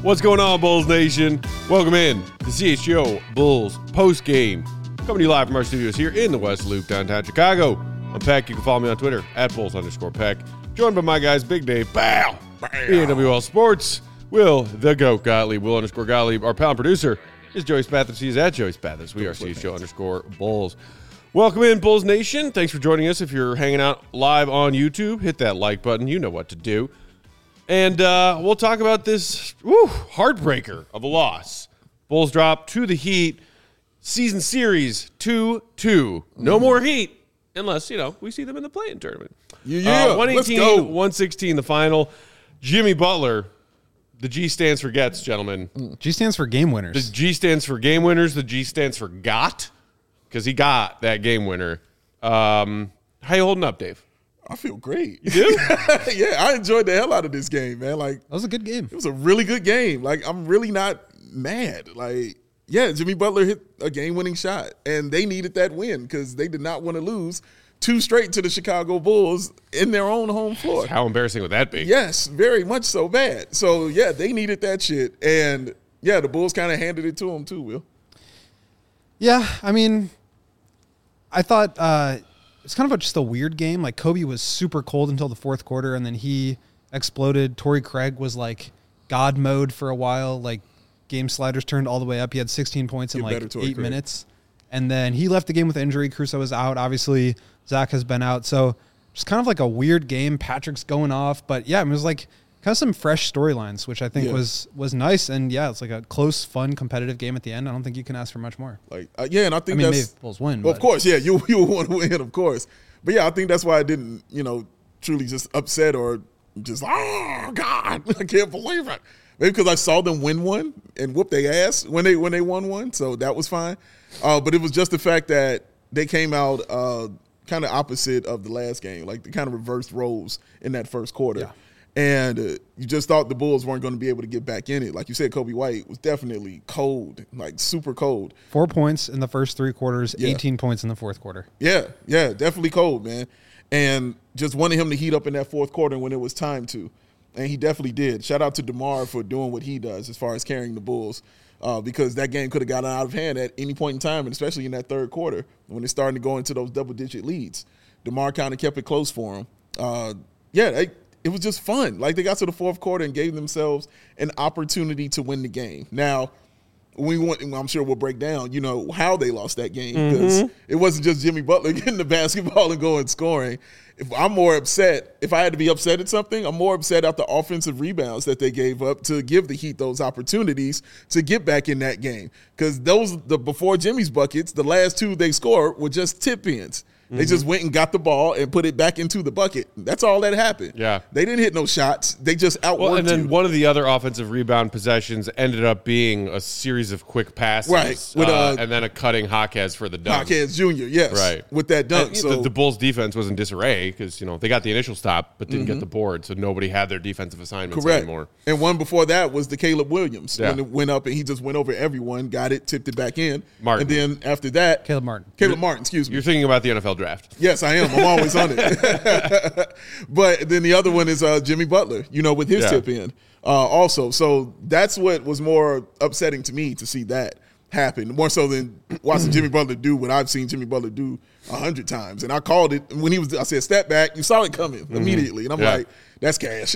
What's going on, Bulls Nation? Welcome in to CHGO Bulls post game. Coming to you live from our studios here in the West Loop, downtown Chicago. I'm Peck. You can follow me on Twitter at Bulls_Peck. Joined by my guys, Big Dave, ENWL Sports, Will the Goat Gottlieb, Will_Gottlieb. Our pal and producer is Joey Spathis. He's at Joey Spathis. We are CHGO_Bulls. Welcome in, Bulls Nation. Thanks for joining us. If you're hanging out live on YouTube, hit that like button. You know what to do. And we'll talk about this heartbreaker of a loss. Bulls drop to the Heat. Season series 2-2. No more Heat unless, we see them in the play-in tournament. 118-116 the final. Jimmy Butler, the G stands for gets, gentlemen. G stands for game winners. The G stands for game winners. The G stands for got, because he got that game winner. How you holding up, Dave? I feel great. You do? Yeah, I enjoyed the hell out of this game, man. Like, that was a good game. It was a really good game. Like, I'm really not mad. Like, yeah, Jimmy Butler hit a game-winning shot, and they needed that win because they did not want to lose 2 straight to the Chicago Bulls in their own home floor. How embarrassing would that be? Yes, very much so bad. So, yeah, they needed that shit. And, yeah, the Bulls kind of handed it to them too, Will. Yeah, I mean, I thought it's kind of just a weird game. Like, Kobe was super cold until the fourth quarter, and then he exploded. Torrey Craig was, like, God mode for a while. Like, game sliders turned all the way up. He had 16 points in, like, 8 minutes. And then he left the game with injury. Caruso was out. Obviously, Zach has been out. So, just kind of like a weird game. Patrick's going off. But, yeah, it was, like, kind of some fresh storylines, which I think was nice. And, yeah, it's like a close, fun, competitive game at the end. I don't think you can ask for much more. Like, and I think maybe Bulls win. Well, of course, yeah, you want to win, of course. But, yeah, I think that's why I didn't, truly just upset or just, oh, God, I can't believe it. Maybe because I saw them win one and whoop their ass when they won one. So that was fine. But it was just the fact that they came out kind of opposite of the last game. Like, they kind of reversed roles in that first quarter. Yeah. And you just thought the Bulls weren't going to be able to get back in it. Like you said, Kobe White was definitely cold, like super cold. 4 points in the first 3 quarters, 18 points in the fourth quarter. Yeah, definitely cold, man. And just wanted him to heat up in that fourth quarter when it was time to. And he definitely did. Shout out to DeMar for doing what he does as far as carrying the Bulls because that game could have gotten out of hand at any point in time, and especially in that third quarter when it's starting to go into those double-digit leads. DeMar kind of kept it close for him. It was just fun. Like, they got to the fourth quarter and gave themselves an opportunity to win the game. Now, I'm sure we'll break down, how they lost that game because it wasn't just Jimmy Butler getting the basketball and going scoring. If I had to be upset at something, I'm more upset at the offensive rebounds that they gave up to give the Heat those opportunities to get back in that game. Because before Jimmy's buckets, the last 2 they scored were just tip-ins. They just went and got the ball and put it back into the bucket. That's all that happened. Yeah. They didn't hit no shots. They just outworked and then one of the other offensive rebound possessions ended up being a series of quick passes. Right. And then a cutting Jaquez for the dunk. Jaquez Jr., yes. Right. With that dunk. And the Bulls' defense was in disarray because, they got the initial stop but didn't get the board, so nobody had their defensive assignments anymore. And one before that was the Caleb Williams. Yeah. When it went up and he just went over everyone, got it, tipped it back in. Martin. And then after that. Caleb Martin, excuse me. You're thinking about the NFL draft. Yes, I am. I'm always on it. But then the other one is Jimmy Butler, with his tip in also. So that's what was more upsetting to me to see that happen, more so than watching Jimmy Butler do what I've seen Jimmy Butler do 100 times. And I called it when I said, step back, you saw it coming immediately. And I'm like, that's cash.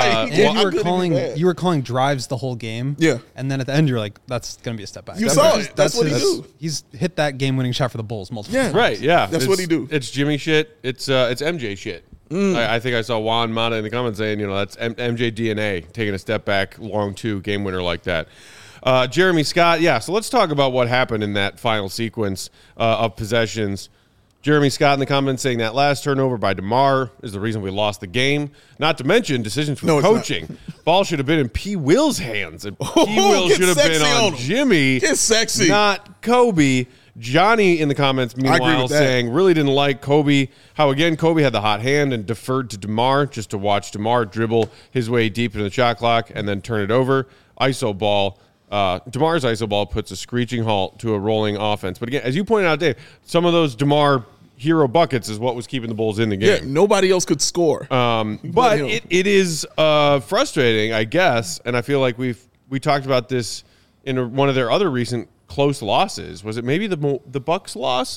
You were calling drives the whole game. Yeah. And then at the end, you're like, that's going to be a step back. You saw it. That's what he do. He's hit that game-winning shot for the Bulls multiple times. Right, yeah. That's what he do. It's Jimmy shit. It's MJ shit. I think I saw Juan Mata in the comments saying, that's MJ DNA, taking a step back, long 2, game winner like that. Jeremy Scott, so let's talk about what happened in that final sequence of possessions. Jeremy Scott in the comments saying that last turnover by DeMar is the reason we lost the game. Not to mention decisions from coaching. Ball should have been in P. Will's hands. And P. Will should have been on Jimmy. Get sexy. Not Kobe. Johnny in the comments, meanwhile, saying really didn't like Kobe. How, again, Kobe had the hot hand and deferred to DeMar just to watch DeMar dribble his way deep into the shot clock and then turn it over. ISO ball. DeMar's ISO ball puts a screeching halt to a rolling offense. But again, as you pointed out, Dave, some of those DeMar hero buckets is what was keeping the Bulls in the game. Yeah, nobody else could score. But it is frustrating, I guess, and I feel like we've we talked about this in one of their other recent close losses. Was it maybe the Bucks loss?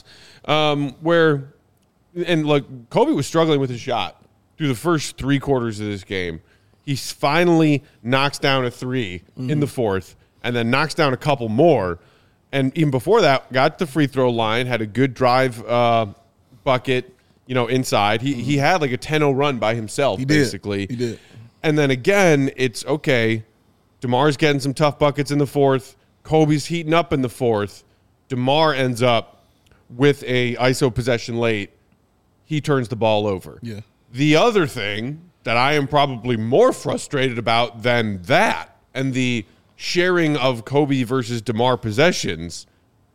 Where, and look, Kobe was struggling with his shot through the first 3 quarters of this game. He finally knocks down a 3 in the fourth, and then knocks down a couple more. And even before that, got the free throw line, had a good drive bucket, inside. He had like a 10-0 run by himself, basically. He did. And then again, it's okay. DeMar's getting some tough buckets in the fourth. Kobe's heating up in the fourth. DeMar ends up with a ISO possession late. He turns the ball over. Yeah. The other thing that I am probably more frustrated about than that, and the sharing of Kobe versus DeMar possessions,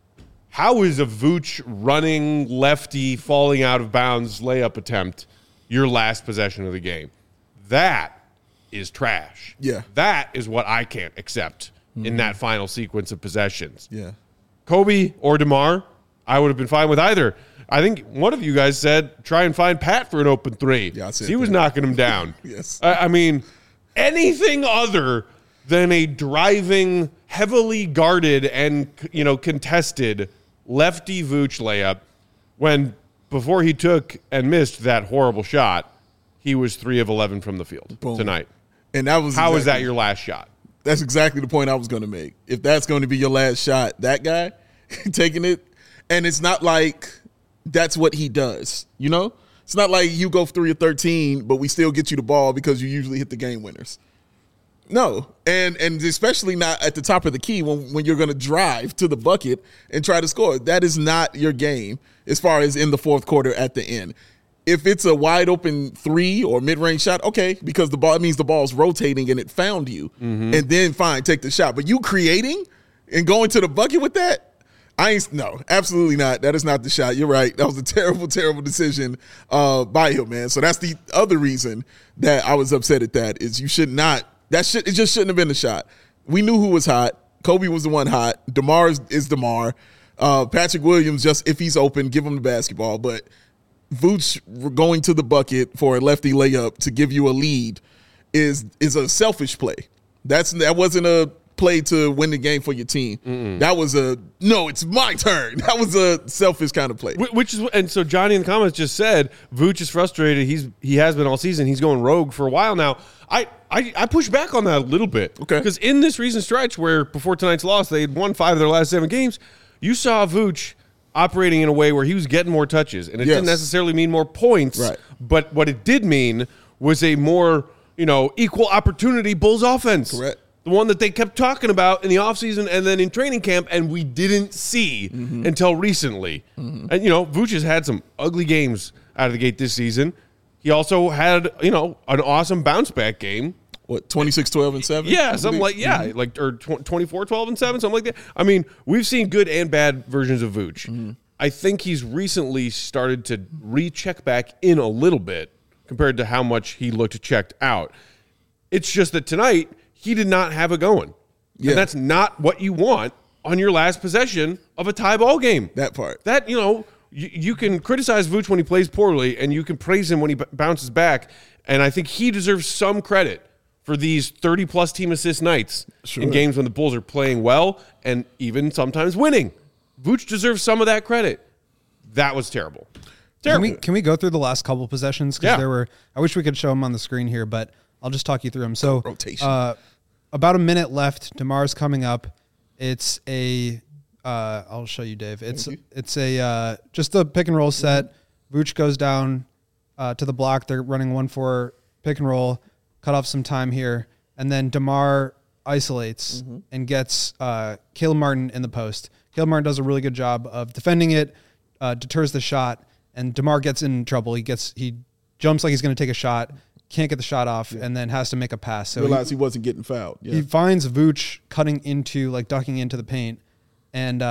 how is a Vooch running lefty falling out of bounds layup attempt your last possession of the game? That is trash. Yeah. That is what I can't accept in that final sequence of possessions. Yeah. Kobe or DeMar, I would have been fine with either. I think one of you guys said try and find Pat for an open 3. Yeah, I said he was knocking him down. Yes. I mean, anything other than a driving, heavily guarded and contested lefty Vooch layup, when before he took and missed that horrible shot, he was 3 of 11 from the field tonight. And that was how is that your last shot? That's exactly the point I was going to make. If that's going to be your last shot, that guy taking it, and it's not like that's what he does, It's not like you go 3 of 13, but we still get you the ball because you usually hit the game winners. No, and especially not at the top of the key when you're going to drive to the bucket and try to score. That is not your game as far as in the fourth quarter at the end. If it's a wide open 3 or mid-range shot, okay, because it means the ball's rotating and it found you, and then fine, take the shot. But you creating and going to the bucket with that, no, absolutely not. That is not the shot. You're right. That was a terrible, terrible decision by him, man. So that's the other reason that I was upset at that is you should not. It just shouldn't have been a shot. We knew who was hot. Kobe was the one hot. DeMar is DeMar. Patrick Williams, just if he's open, give him the basketball. But Vooch going to the bucket for a lefty layup to give you a lead is a selfish play. That wasn't a play to win the game for your team. That was it's my turn. That was a selfish kind of play. And so Johnny in the comments just said Vooch is frustrated. He has been all season. He's going rogue for a while now. I push back on that a little bit. Okay. Because in this recent stretch where before tonight's loss they had won 5 of their last 7 games, you saw Vooch operating in a way where he was getting more touches, and it didn't necessarily mean more points. Right. But what it did mean was a more equal opportunity Bulls offense. Correct. The one that they kept talking about in the offseason and then in training camp, and we didn't see until recently. And, Vooch has had some ugly games out of the gate this season. He also had, an awesome bounce-back game. What, 26, 12, and 7? Yeah, something like, or 24, 12, and 7, something like that. I mean, we've seen good and bad versions of Vooch. I think he's recently started to recheck back in a little bit compared to how much he looked checked out. It's just that tonight, he did not have it going. Yeah. And that's not what you want on your last possession of a tie ball game. That part. That, you can criticize Vooch when he plays poorly, and you can praise him when he bounces back. And I think he deserves some credit for these 30-plus team assist nights in games when the Bulls are playing well and even sometimes winning. Vooch deserves some of that credit. That was terrible. Terrible. Can we go through the last couple possessions? Because there were. I wish we could show them on the screen here, but I'll just talk you through them. So rotation. About a minute left. DeMar's coming up. It's a. I'll show you, Dave. It's a just a pick and roll set. Vooch goes down to the block. They're running 1-4 pick and roll. Cut off some time here, and then DeMar isolates and gets Caleb Martin in the post. Caleb Martin does a really good job of defending it, deters the shot, and DeMar gets in trouble. He jumps like he's going to take a shot, can't get the shot off, and then has to make a pass. So realized he wasn't getting fouled. Yeah. He finds Vooch ducking into the paint, and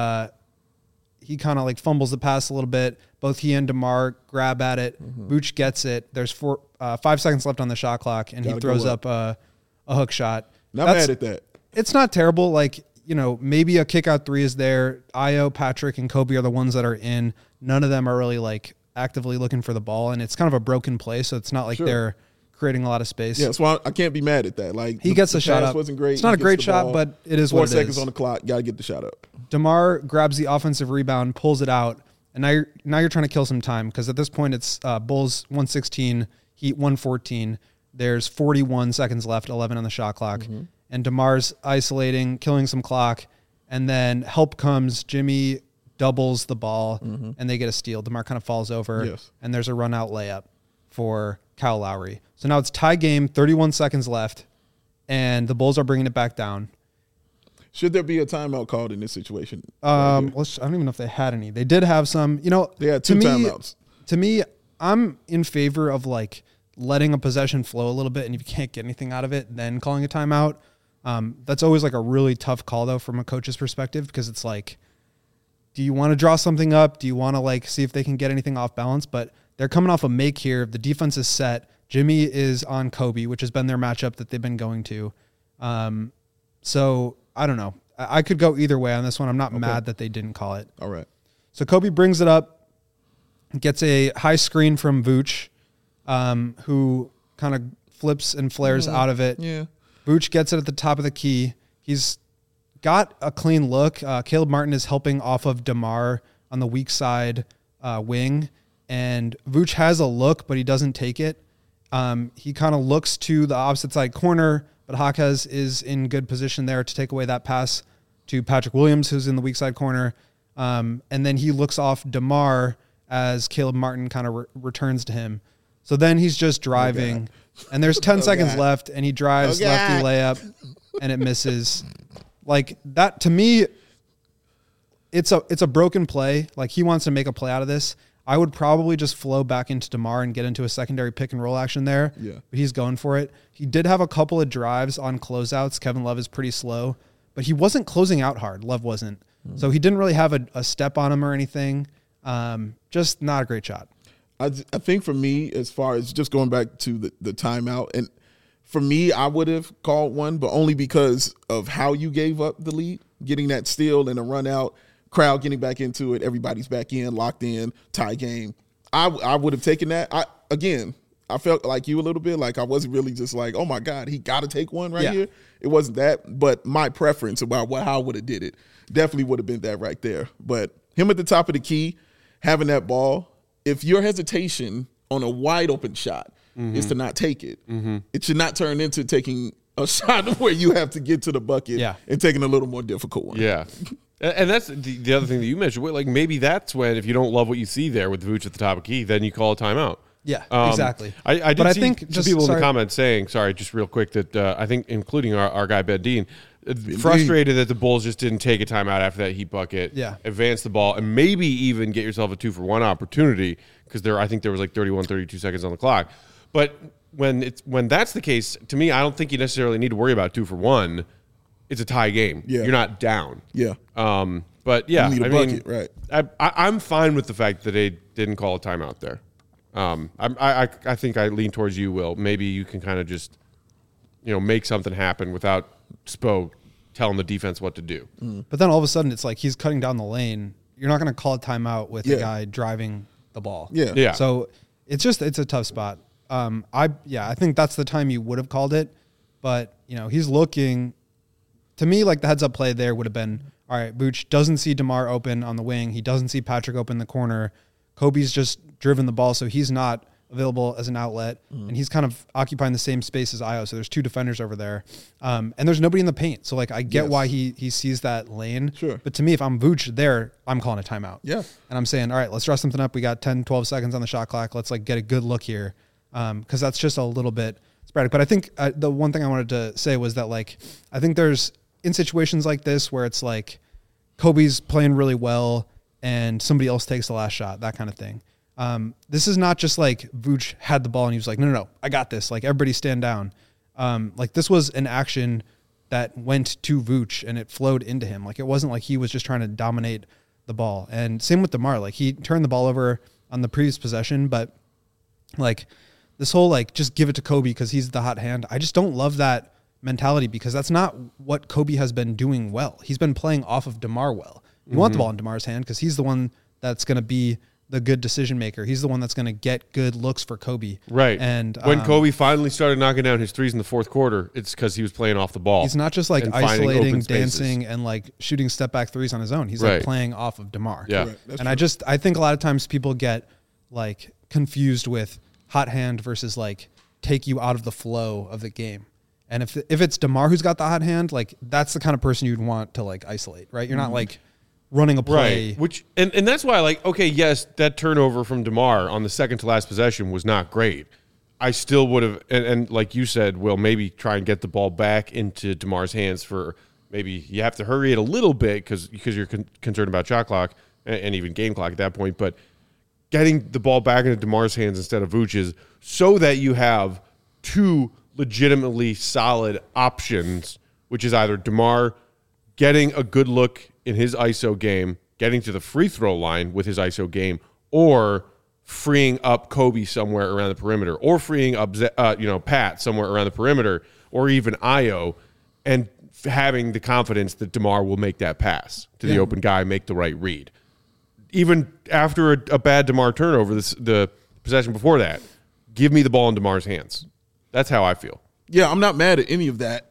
he kind of fumbles the pass a little bit. Both he and DeMar grab at it. Vooch gets it. There's 5 seconds left on the shot clock, and he throws up a hook shot. Not mad at that. It's not terrible. Maybe a kick out 3 is there. Io, Patrick, and Kobe are the ones that are in. None of them are really actively looking for the ball, and it's kind of a broken play, so it's not like they're creating a lot of space. Yeah, so I can't be mad at that. Like he gets the shot pass up. wasn't great. It's not He a gets great the shot, ball. but it is 4 what it seconds is. on the clock. Got to get the shot up. DeMar grabs the offensive rebound, pulls it out, and now you're trying to kill some time because at this point it's Bulls 116, Heat 114. There's 41 seconds left, 11 on the shot clock, and DeMar's isolating, killing some clock, and then help comes. Jimmy doubles the ball, and they get a steal. DeMar kind of falls over, and there's a run-out layup for Kyle Lowry. So now it's tie game, 31 seconds left, and the Bulls are bringing it back down. Should there be a timeout called in this situation? I don't even know if they had any. They did have some. You know, They had 2 timeouts. To me, I'm in favor of like letting a possession flow a little bit, and if you can't get anything out of it, then calling a timeout. That's always like a really tough call though from a coach's perspective, because it's like, do you want to draw something up? Do you want to like see if they can get anything off balance? But they're coming off a make here. The defense is set. Jimmy is on Kobe, which has been their matchup that they've been going to. So I don't know. I could go either way on this one. I'm not mad that they didn't call it. All right. So Kobe brings it up, gets a high screen from Vooch, who kind of flips and flares out of it. Yeah. Vooch gets it at the top of the key. He's got a clean look. Caleb Martin is helping off of DeMar on the weak side wing, and Vooch has a look, but he doesn't take it. He kind of looks to the opposite side corner, but Jaquez is in good position there to take away that pass to Patrick Williams, who's in the weak side corner. And then he looks off DeMar as Caleb Martin kind of returns to him. So then he's just driving, and there's 10 seconds left, and he drives lefty layup, and it misses. Like that, to me, it's a broken play. Like he wants to make a play out of this. I would probably just flow back into DeMar and get into a secondary pick and roll action there. Yeah. But he's going for it. He did have a couple of drives on closeouts. Kevin Love is pretty slow, but he wasn't closing out hard. Love wasn't. So he didn't really have a step on him or anything. Just not a great shot. I think for me, as far as just going back to the timeout, and for me, I would have called one, but only because of how you gave up the lead, getting that steal and a run out, crowd getting back into it, everybody's back in, locked in, tie game. I would have taken that. I felt like you a little bit, like I wasn't really just like, oh my God, he got to take one here. It wasn't that, but my preference about how I would have did it definitely would have been that right there. But him at the top of the key, having that ball, if your hesitation on a wide open shot is to not take it, it should not turn into taking a shot where you have to get to the bucket and taking a little more difficult one. Yeah. And that's the other thing that you mentioned. Like maybe that's when, if you don't love what you see there with Vooch at the top of key, then you call a timeout. Yeah, exactly. I did see think some people in the comments saying, just real quick, that I think including our guy Ben Dean, frustrated that the Bulls just didn't take a timeout after that Heat bucket, advance the ball, and maybe even get yourself a 2-for-1 opportunity, because I think there was like 31, 32 seconds on the clock. But when that's the case, to me, I don't think you necessarily need to worry about 2-for-1. It's a tie game. Yeah. You're not down. Yeah. But yeah, you need a bucket, right? I'm fine with the fact that they didn't call a timeout there. I think I lean towards you, Will. Maybe you can kind of just, make something happen without Spo telling the defense what to do. But then all of a sudden, it's like he's cutting down the lane. You're not going to call a timeout with a guy driving the ball. Yeah. So it's a tough spot. I think that's the time you would have called it. But he's looking. To me, like the heads-up play there would have been, all right, Vooch doesn't see DeMar open on the wing. He doesn't see Patrick open in the corner. Kobe's just driven the ball, so he's not available as an outlet, and he's kind of occupying the same space as Io, so there's 2 defenders over there. And there's nobody in the paint, so like I get why he sees that lane. Sure. But to me, if I'm Vooch there, I'm calling a timeout. Yeah. And I'm saying, all right, let's draw something up. We got 10, 12 seconds on the shot clock. Let's like get a good look here, because that's just a little bit sporadic. But I think the one thing I wanted to say was that like I think there's in situations like this where it's like Kobe's playing really well and somebody else takes the last shot, that kind of thing. This is not just like Vooch had the ball and he was like, no, I got this. Like everybody stand down. Like this was an action that went to Vooch and it flowed into him. Like it wasn't like he was just trying to dominate the ball. And same with DeMar. Like he turned the ball over on the previous possession, but like this whole like just give it to Kobe because he's the hot hand. I just don't love that mentality because that's not what Kobe has been doing well. He's been playing off of DeMar well. You want the ball in DeMar's hand because he's the one that's going to be the good decision maker. He's the one that's going to get good looks for Kobe. Right. And when Kobe finally started knocking down his threes in the fourth quarter, it's because he was playing off the ball. He's not just like and finding isolating, open spaces. dancing, and like shooting step back threes on his own. He's Right. like playing off of DeMar. Yeah. Correct. And I think a lot of times people get like confused with hot hand versus like take you out of the flow of the game. And if it's DeMar who's got the hot hand, like that's the kind of person you'd want to like isolate, right? You're not like running a play. Right. Which and that's why, like, okay, yes, that turnover from DeMar on the second to last possession was not great. I still would have, and like you said, Will, maybe try and get the ball back into DeMar's hands for maybe you have to hurry it a little bit because you're concerned about shot clock and even game clock at that point. But getting the ball back into DeMar's hands instead of Vooch's so that you have two legitimately solid options, which is either DeMar getting a good look in his ISO game, getting to the free throw line with his ISO game, or freeing up Kobe somewhere around the perimeter, or freeing up Pat somewhere around the perimeter, or even Io, and having the confidence that DeMar will make that pass to the open guy, make the right read. Even after a bad DeMar turnover, the possession before that, give me the ball in DeMar's hands. That's how I feel. Yeah, I'm not mad at any of that.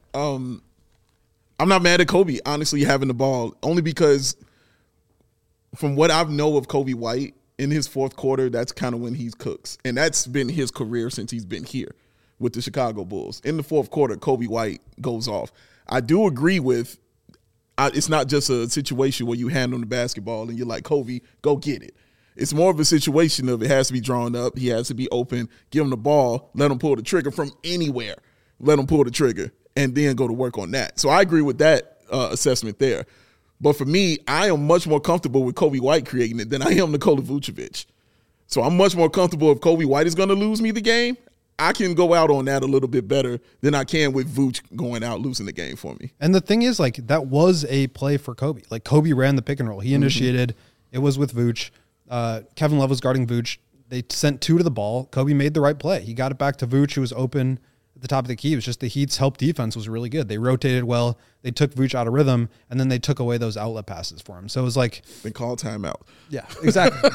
I'm not mad at Kobe, honestly, having the ball, only because from what I know of Kobe White, in his fourth quarter, that's kind of when he cooks. And that's been his career since he's been here with the Chicago Bulls. In the fourth quarter, Kobe White goes off. I do agree with it's not just a situation where you hand him the basketball and you're like, Kobe, go get it. It's more of a situation of it has to be drawn up. He has to be open. Give him the ball. Let him pull the trigger from anywhere. Let him pull the trigger and then go to work on that. So I agree with that assessment there. But for me, I am much more comfortable with Kobe White creating it than I am Nikola Vucevic. So I'm much more comfortable if Kobe White is going to lose me the game. I can go out on that a little bit better than I can with Vooch going out losing the game for me. And the thing is, like, that was a play for Kobe. Like, Kobe ran the pick and roll. He initiated. It was with Vooch. Kevin Love was guarding Vooch. They sent two to the ball. Kobe made the right play. He got it back to Vooch, who was open at the top of the key. It was just the Heat's help defense was really good. They rotated well. They took Vooch out of rhythm, and then they took away those outlet passes for him. So it was like... Then call timeout. Yeah, exactly.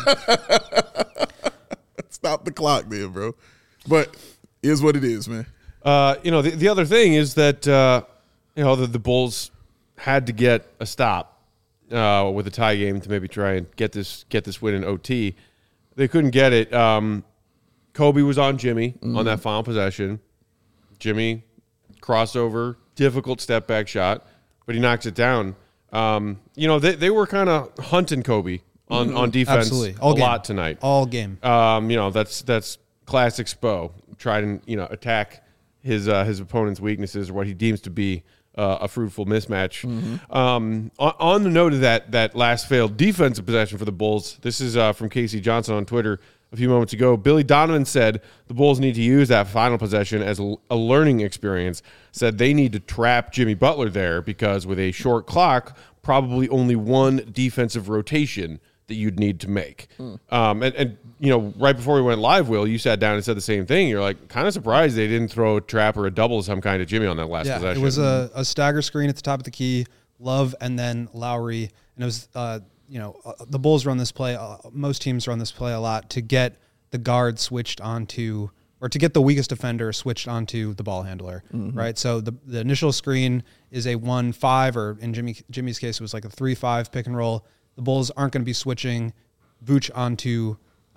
Stop the clock there, bro. But is what it is, man. The other thing is that, the Bulls had to get a stop with a tie game to maybe try and get this win in OT. They couldn't get it. Kobe was on Jimmy on that final possession. Jimmy, crossover, difficult step back shot, but he knocks it down. They were kind of hunting Kobe on defense a lot tonight. All game. That's classic Spo. Try and attack his opponent's weaknesses or what he deems to be a fruitful mismatch. On the note of that last failed defensive possession for the Bulls, this is from Casey Johnson on Twitter a few moments ago. Billy Donovan said the Bulls need to use that final possession as a learning experience. Said they need to trap Jimmy Butler there because with a short clock, probably only one defensive rotation that you'd need to make. Right before we went live, Will, you sat down and said the same thing. You're like kind of surprised they didn't throw a trap or a double of some kind of Jimmy on that last possession. It was a stagger screen at the top of the key, Love and then Lowry. And it was, the Bulls run this play. Most teams run this play a lot to get the guard switched onto, or to get the weakest defender switched onto the ball handler, right? So the initial screen is a 1-5, or in Jimmy's case, it was like a 3-5 pick and roll. The Bulls aren't going to be switching Vooch onto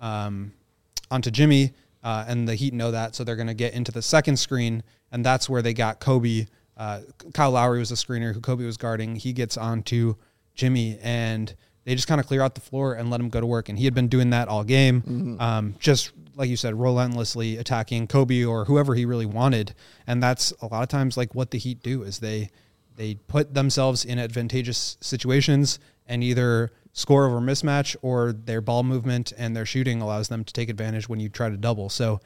Jimmy, and the Heat know that, so they're going to get into the second screen, and that's where they got Kobe. Kyle Lowry was the screener who Kobe was guarding. He gets onto Jimmy, and they just kind of clear out the floor and let him go to work. And he had been doing that all game, just like you said, relentlessly attacking Kobe or whoever he really wanted. And that's a lot of times like what the Heat do is they put themselves in advantageous situations and either score over mismatch or their ball movement and their shooting allows them to take advantage when you try to double. So,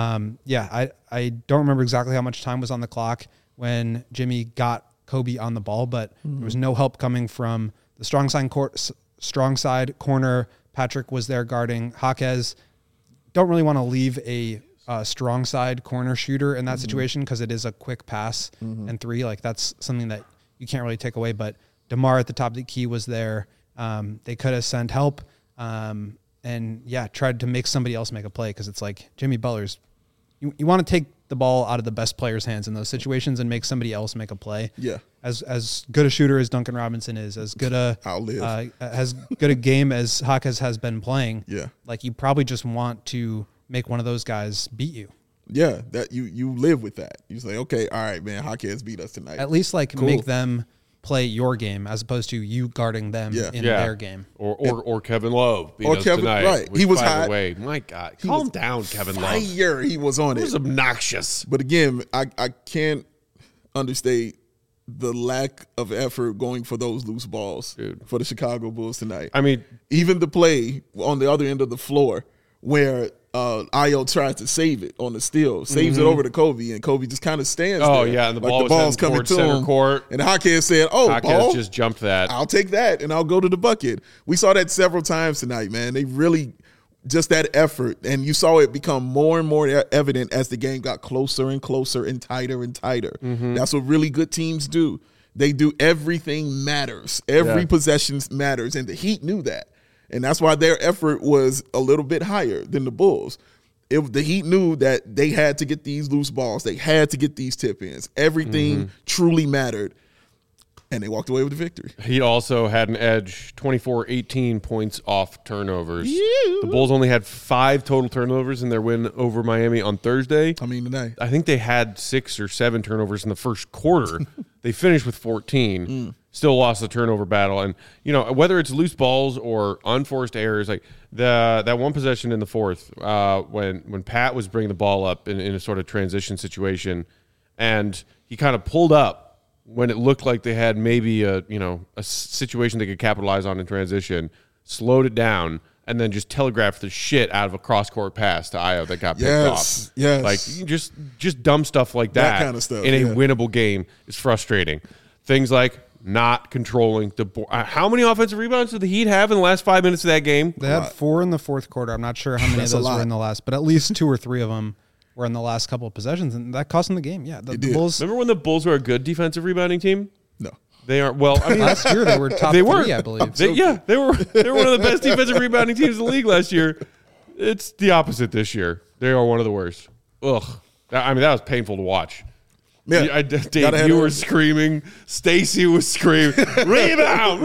I don't remember exactly how much time was on the clock when Jimmy got Kobe on the ball, but there was no help coming from the strong side corner. Patrick was there guarding Jaquez. Don't really want to leave a strong side corner shooter in that situation because it is a quick pass and three. Like that's something that you can't really take away, but DeMar at the top of the key was there. They could have sent help. And and tried to make somebody else make a play, because it's like Jimmy Butler's. You want to take the ball out of the best player's hands in those situations and make somebody else make a play. Yeah. As good a shooter as Duncan Robinson is, as good a game as Jaquez has been playing. Yeah. Like, you probably just want to make one of those guys beat you. Yeah, that you live with that. You say, okay, all right, man, Jaquez beat us tonight. At least make them play your game as opposed to you guarding them in their game. Or Kevin Love beat us tonight. Right. Which, he was by hot. the way, my God, calm down, Kevin Love. Fire, he was on it. It was obnoxious. But again, I can't understate the lack of effort going for those loose balls for the Chicago Bulls tonight. I mean, even the play on the other end of the floor where Ayo tries to save it on the steal, saves it over to Kobe, and Kobe just kind of stands there. Oh, yeah, and the ball's coming to center him. court. And Jaquez said, ball, just jumped that. I'll take that, and I'll go to the bucket. We saw that several times tonight, man. They really just that effort, and you saw it become more and more evident as the game got closer and closer and tighter and tighter. That's what really good teams do. They do everything matters. Every possession matters, and the Heat knew that. And that's why their effort was a little bit higher than the Bulls. The Heat knew that they had to get these loose balls. They had to get these tip-ins. Everything truly mattered. And they walked away with the victory. He also had an edge, 24-18 points off turnovers. The Bulls only had 5 total turnovers in their win over Miami on Thursday. Tonight. I think they had 6 or 7 turnovers in the first quarter. They finished with 14. Still lost the turnover battle. And, whether it's loose balls or unforced errors, like that one possession in the fourth when Pat was bringing the ball up in a sort of transition situation, and he kind of pulled up when it looked like they had maybe a situation they could capitalize on in transition, slowed it down, and then just telegraphed the shit out of a cross-court pass to Ayo that got picked off. Yes. Like, just dumb stuff like that kind of stuff, in a winnable game is frustrating. Things like not controlling the board. How many offensive rebounds did the Heat have in the last 5 minutes of that game? They had 4 in the fourth quarter. I'm not sure how many of those were in the last, but at least 2 or 3 of them were in the last couple of possessions, and that cost them the game. Yeah, the Bulls. Remember when the Bulls were a good defensive rebounding team? No. They aren't. Well, I mean, last year they were top 3, I believe. They were one of the best defensive rebounding teams in the league last year. It's the opposite this year. They are one of the worst. Ugh. I mean, that was painful to watch. Yeah, Dave, you were screaming. Stacy was screaming. Rebound!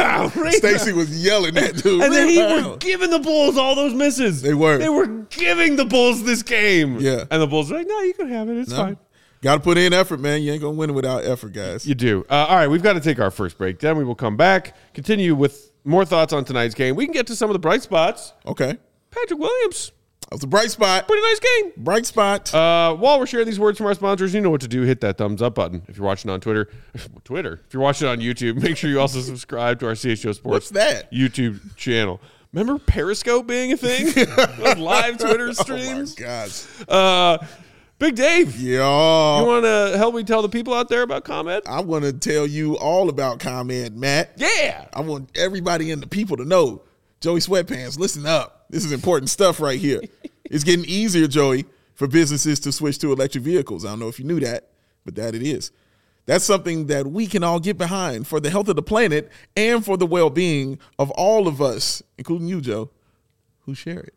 Stacy was yelling at dude. And then he were giving the Bulls all those misses. They were. They were giving the Bulls this game. Yeah. And the Bulls were like, no, you can have it. It's fine. Got to put in effort, man. You ain't going to win without effort, guys. You do. All right, we've got to take our first break. Then we will come back, continue with more thoughts on tonight's game. We can get to some of the bright spots. Okay. Patrick Williams. That was a bright spot. Pretty nice game. Bright spot. While we're sharing these words from our sponsors, you know what to do. Hit that thumbs up button. If you're watching on Twitter. If you're watching on YouTube, make sure you also subscribe to our CHO Sports What's that? YouTube channel. Remember Periscope being a thing? Those live Twitter streams? Oh, my gosh. Big Dave. Yeah. You want to help me tell the people out there about ComEd? I want to tell you all about ComEd, Matt. Yeah. I want everybody and the people to know. Joey Sweatpants, listen up. This is important stuff right here. It's getting easier, Joey, for businesses to switch to electric vehicles. I don't know if you knew that, but that it is. That's something that we can all get behind for the health of the planet and for the well-being of all of us, including you, Joe, who share it.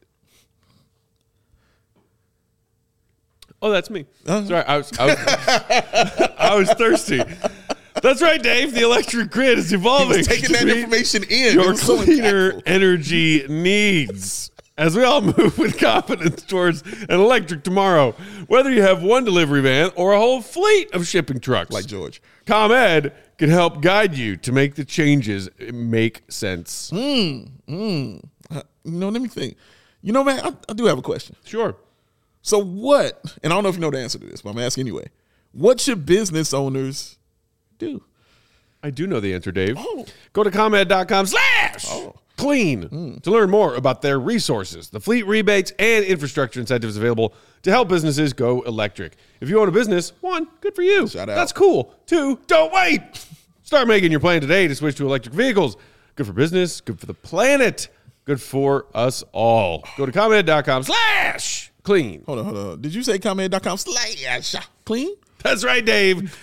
Oh, that's me. Sorry, I was thirsty. That's right, Dave. The electric grid is evolving. He's taking that information in. Your cleaner energy needs. As we all move with confidence towards an electric tomorrow, whether you have one delivery van or a whole fleet of shipping trucks. Like George. ComEd can help guide you to make the changes make sense. Let me think. Man, I do have a question. Sure. So what, and I don't know if you know the answer to this, but I'm asking anyway. What should business owners do? I do know the answer, Dave. Go to ComEd.com/clean to learn more about their resources, the fleet rebates, and infrastructure incentives available to help businesses go electric. If you own a business, 1, good for you. Shout out. That's cool. 2, don't wait. Start making your plan today to switch to electric vehicles. Good for business, good for the planet, good for us all. Go to ComEd.com/clean. Hold on. Did you say ComEd.com/clean? That's right, Dave.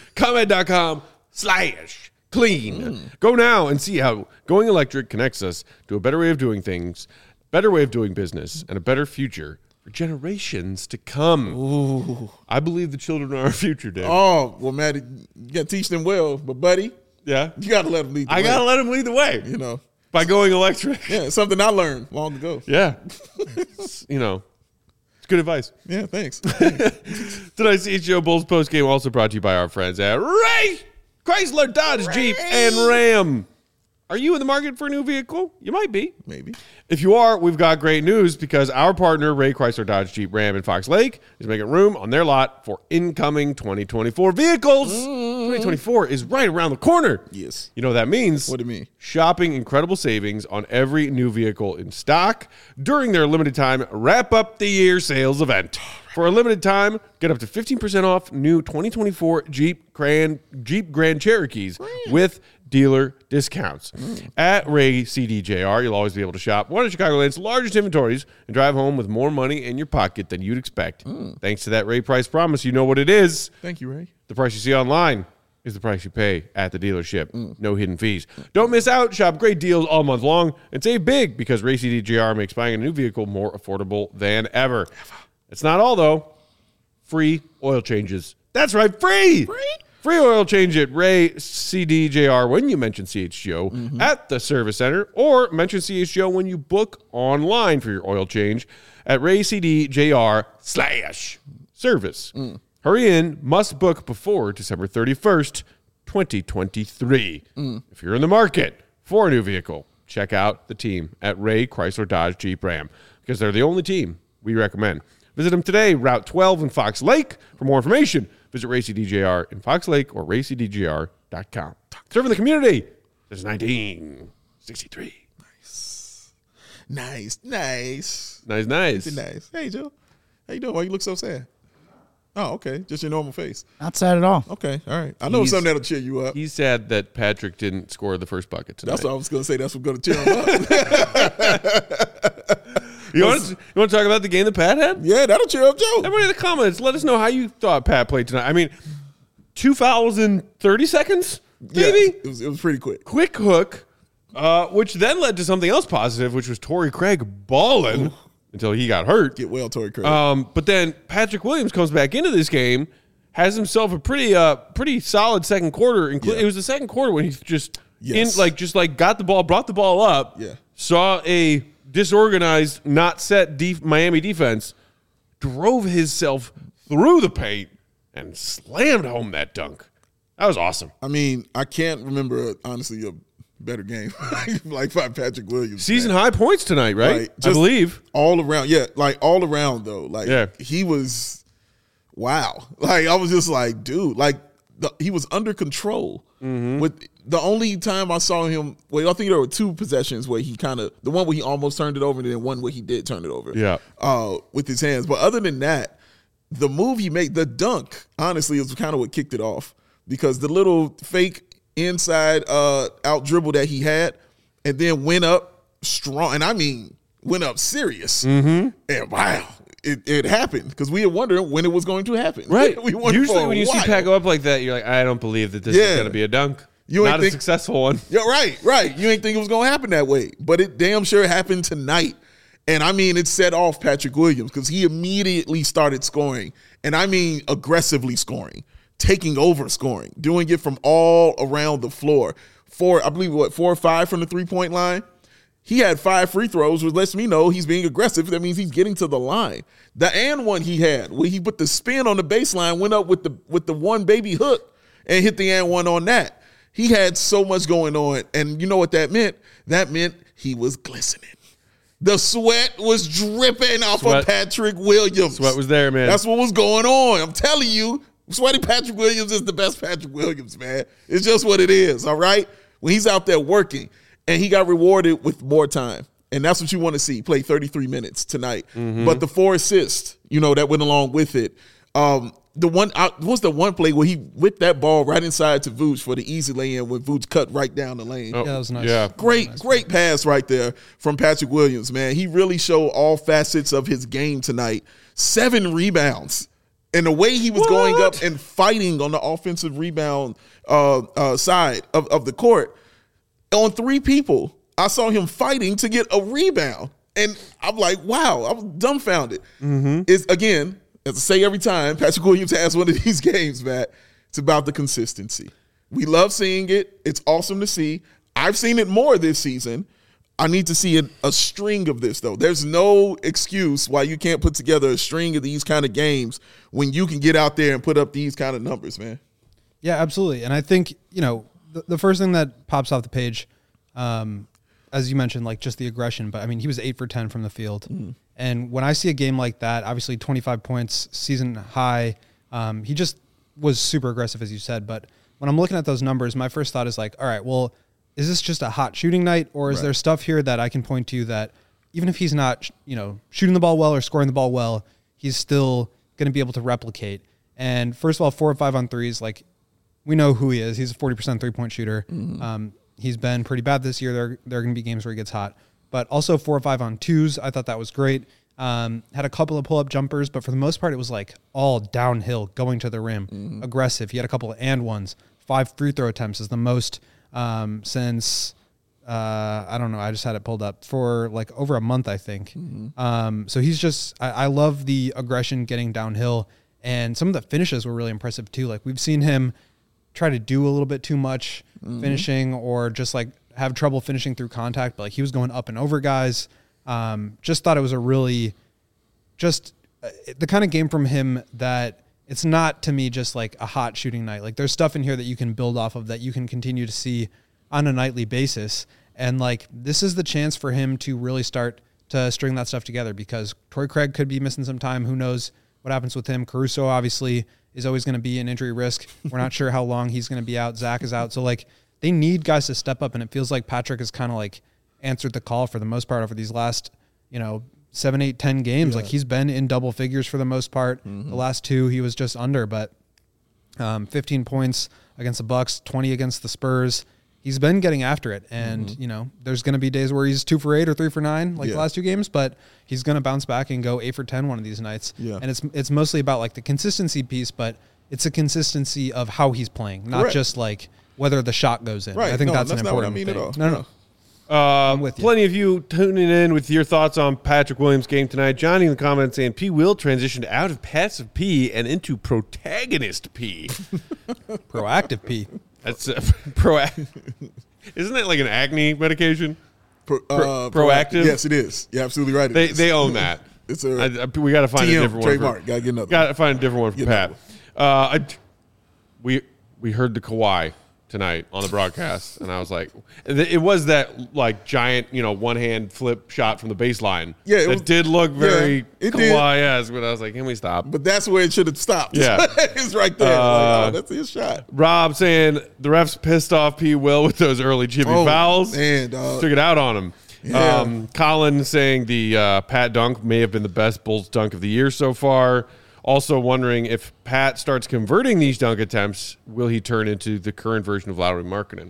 ComEd.com/clean. Go now and see how going electric connects us to a better way of doing things, better way of doing business, and a better future for generations to come. Ooh. I believe the children are our future, Dave. Oh, well, Matt, you got to teach them well. But, buddy, Yeah. you got to let them lead the way. I got to let them lead the way You know. by going electric. Yeah, it's something I learned long ago. Yeah. You know, it's good advice. Yeah, thanks. Tonight's CHGO Bulls postgame also brought to you by our friends at Ray Chrysler, Dodge, Jeep, and Ram. Are you in the market for a new vehicle? You might be. Maybe. If you are, we've got great news because our partner, Ray Chrysler, Dodge, Jeep, Ram in Fox Lake, is making room on their lot for incoming 2024 vehicles. 2024 is right around the corner. Yes. You know what that means? What do you mean? Shopping incredible savings on every new vehicle in stock during their limited time wrap up the year sales event. For a limited time, get up to 15% off new 2024 Jeep Grand Cherokees with dealer discounts. At Ray CDJR, you'll always be able to shop one of Chicagoland's largest inventories and drive home with more money in your pocket than you'd expect. Thanks to that Ray price promise, you know what it is. Thank you, Ray. The price you see online is the price you pay at the dealership. No hidden fees. Don't miss out. Shop great deals all month long and save big because Ray CDJR makes buying a new vehicle more affordable than ever. It's not all, though. Free oil changes. That's right, free! Free oil change at Ray CDJR when you mention CHGO at the service center, or mention CHGO when you book online for your oil change at RayCDJR/service. Hurry in, must book before December 31st, 2023. If you're in the market for a new vehicle, check out the team at Ray Chrysler Dodge Jeep Ram because they're the only team we recommend. Visit them today, Route 12 in Fox Lake. For more information, visit Ray CDJR in Fox Lake or raycdjr.com. Serving the community since 1963. Nice. Nice. Hey, Joe. How you doing? Why you look so sad? Oh, okay. Just your normal face. Not sad at all. Okay. All right. I know He's- something that'll cheer you up. He's sad that Patrick didn't score the first bucket tonight. That's what I was going to say. That's what's going to cheer him up. You want to talk about the game that Pat had? Yeah, that'll cheer up Joe. Everybody in the comments, let us know how you thought Pat played tonight. I mean, 2 fouls in 30 seconds, maybe? Yeah, it was pretty quick. Quick hook, which then led to something else positive, which was Torrey Craig balling until he got hurt. Get well, Torrey Craig. But then Patrick Williams comes back into this game, has himself a pretty solid second quarter. Yeah. It was the second quarter when he just Yes. got the ball, brought the ball up. Yeah. Saw a disorganized, not set Miami defense, drove himself through the paint and slammed home that dunk. That was awesome. I mean, I can't remember, honestly, a better game like by Patrick Williams. Season man. high points tonight, right? Like, I just believe. all around. Yeah, like all around though. Like he was wow. Like I was just like, dude, like he was under control. With the only time I saw him, well, I think there were 2 possessions where he kind of, the one where he almost turned it over and then one where he did turn it over. Yeah. With his hands. But other than that, the move he made, the dunk, honestly, is kind of what kicked it off because the little fake inside out dribble that he had and then went up strong. And I mean, went up serious. And wow. It happened because we were wondering when it was going to happen. Right. We wondered Usually for a when you see while. Pat go up like that, you're like, I don't believe that this is Yeah. going to be a dunk. You ain't Not a think- successful one. Yeah, right. You ain't think it was going to happen that way. But it damn sure happened tonight. And I mean, it set off Patrick Williams because he immediately started scoring. And I mean, aggressively scoring, taking over scoring, doing it from all around the floor. 4 or 5 from the 3-point line. He had 5 free throws, which lets me know he's being aggressive. That means he's getting to the line. The and one he had, where he put the spin on the baseline, went up with the one baby hook and hit the and one on that. He had so much going on, and you know what that meant? That meant he was glistening. The sweat was dripping off of Patrick Williams. Sweat was there, man. That's what was going on. I'm telling you, sweaty Patrick Williams is the best Patrick Williams, man. It's just what it is, all right? When he's out there working. And he got rewarded with more time. And that's what you want to see. Play 33 minutes tonight. But the 4 assists, that went along with it. Was the one play where he whipped that ball right inside to Vooch for the easy lay-in when Vooch cut right down the lane. Yeah, that was nice. Yeah. Great pass right there from Patrick Williams, man. He really showed all facets of his game tonight. 7 rebounds. And the way he was going up and fighting on the offensive rebound side of the court, on 3 people, I saw him fighting to get a rebound. And I'm like, wow, I was dumbfounded. It's, again, as I say every time, Patrick Williams has one of these games, Matt, it's about the consistency. We love seeing it. It's awesome to see. I've seen it more this season. I need to see a string of this, though. There's no excuse why you can't put together a string of these kind of games when you can get out there and put up these kind of numbers, man. Yeah, absolutely. And I think, the first thing that pops off the page, as you mentioned, like just the aggression, but I mean, he was 8 for 10 from the field. And when I see a game like that, obviously 25 points, season high, he just was super aggressive, as you said. But when I'm looking at those numbers, my first thought is like, all right, well, is this just a hot shooting night, or is there stuff here that I can point to that even if he's not, shooting the ball well or scoring the ball well, he's still going to be able to replicate? And first of all, 4 or 5 on threes, like we know who he is. He's a 40% 3-point shooter. He's been pretty bad this year. There are going to be games where he gets hot, but also 4 or 5 on twos. I thought that was great. Had a couple of pull-up jumpers, but for the most part, it was like all downhill, going to the rim, aggressive. He had a couple of and ones. 5 free throw attempts is the most since I don't know. I just had it pulled up for like over a month, I think. So he's just, I love the aggression getting downhill, and some of the finishes were really impressive too. Like we've seen him try to do a little bit too much finishing, or just like have trouble finishing through contact, but like he was going up and over guys. Just thought it was a really the kind of game from him that it's not, to me, just like a hot shooting night. Like there's stuff in here that you can build off of, that you can continue to see on a nightly basis. And like, this is the chance for him to really start to string that stuff together, because Torrey Craig could be missing some time. Who knows what happens with him? Caruso obviously is always going to be an injury risk. We're not sure how long he's going to be out. Zach is out. So like, they need guys to step up, and it feels like Patrick has kind of like answered the call for the most part over these last, 7, 8, 10 games. Yeah. Like he's been in double figures for the most part. The last 2 he was just under, but 15 points against the Bucks, 20 against the Spurs. He's been getting after it, and there's going to be days where he's 2 for 8 or 3 for 9, like the last 2 games, but he's going to bounce back and go 8 for 10 one of these nights. Yeah. And it's mostly about like the consistency piece, but it's a consistency of how he's playing, not just like whether the shot goes in. Right. I think that's an important thing. No. Plenty of you tuning in with your thoughts on Patrick Williams' game tonight. Johnny in the comments saying P. Will transitioned out of passive P and into protagonist P. Proactive P. That's proactive. Isn't that like an acne medication? Proactive? Yes, it is. You're absolutely right. They own that. We got to find a different one. Trademark. Got to get another. Got to find a different one for Pat. We heard the Kawhi tonight on the broadcast, and I was like, it was that like giant, one hand flip shot from the baseline. Yeah, it did look very Kawhi-esque, but I was like, can we stop? But that's where it should have stopped. Yeah, it's right there. That's his shot. Rob saying the refs pissed off P. Will with those early chippy fouls. Man, dog. Took it out on him. Yeah. Colin saying the Pat dunk may have been the best Bulls dunk of the year so far. Also wondering if Pat starts converting these dunk attempts, will he turn into the current version of Lauri Markkanen?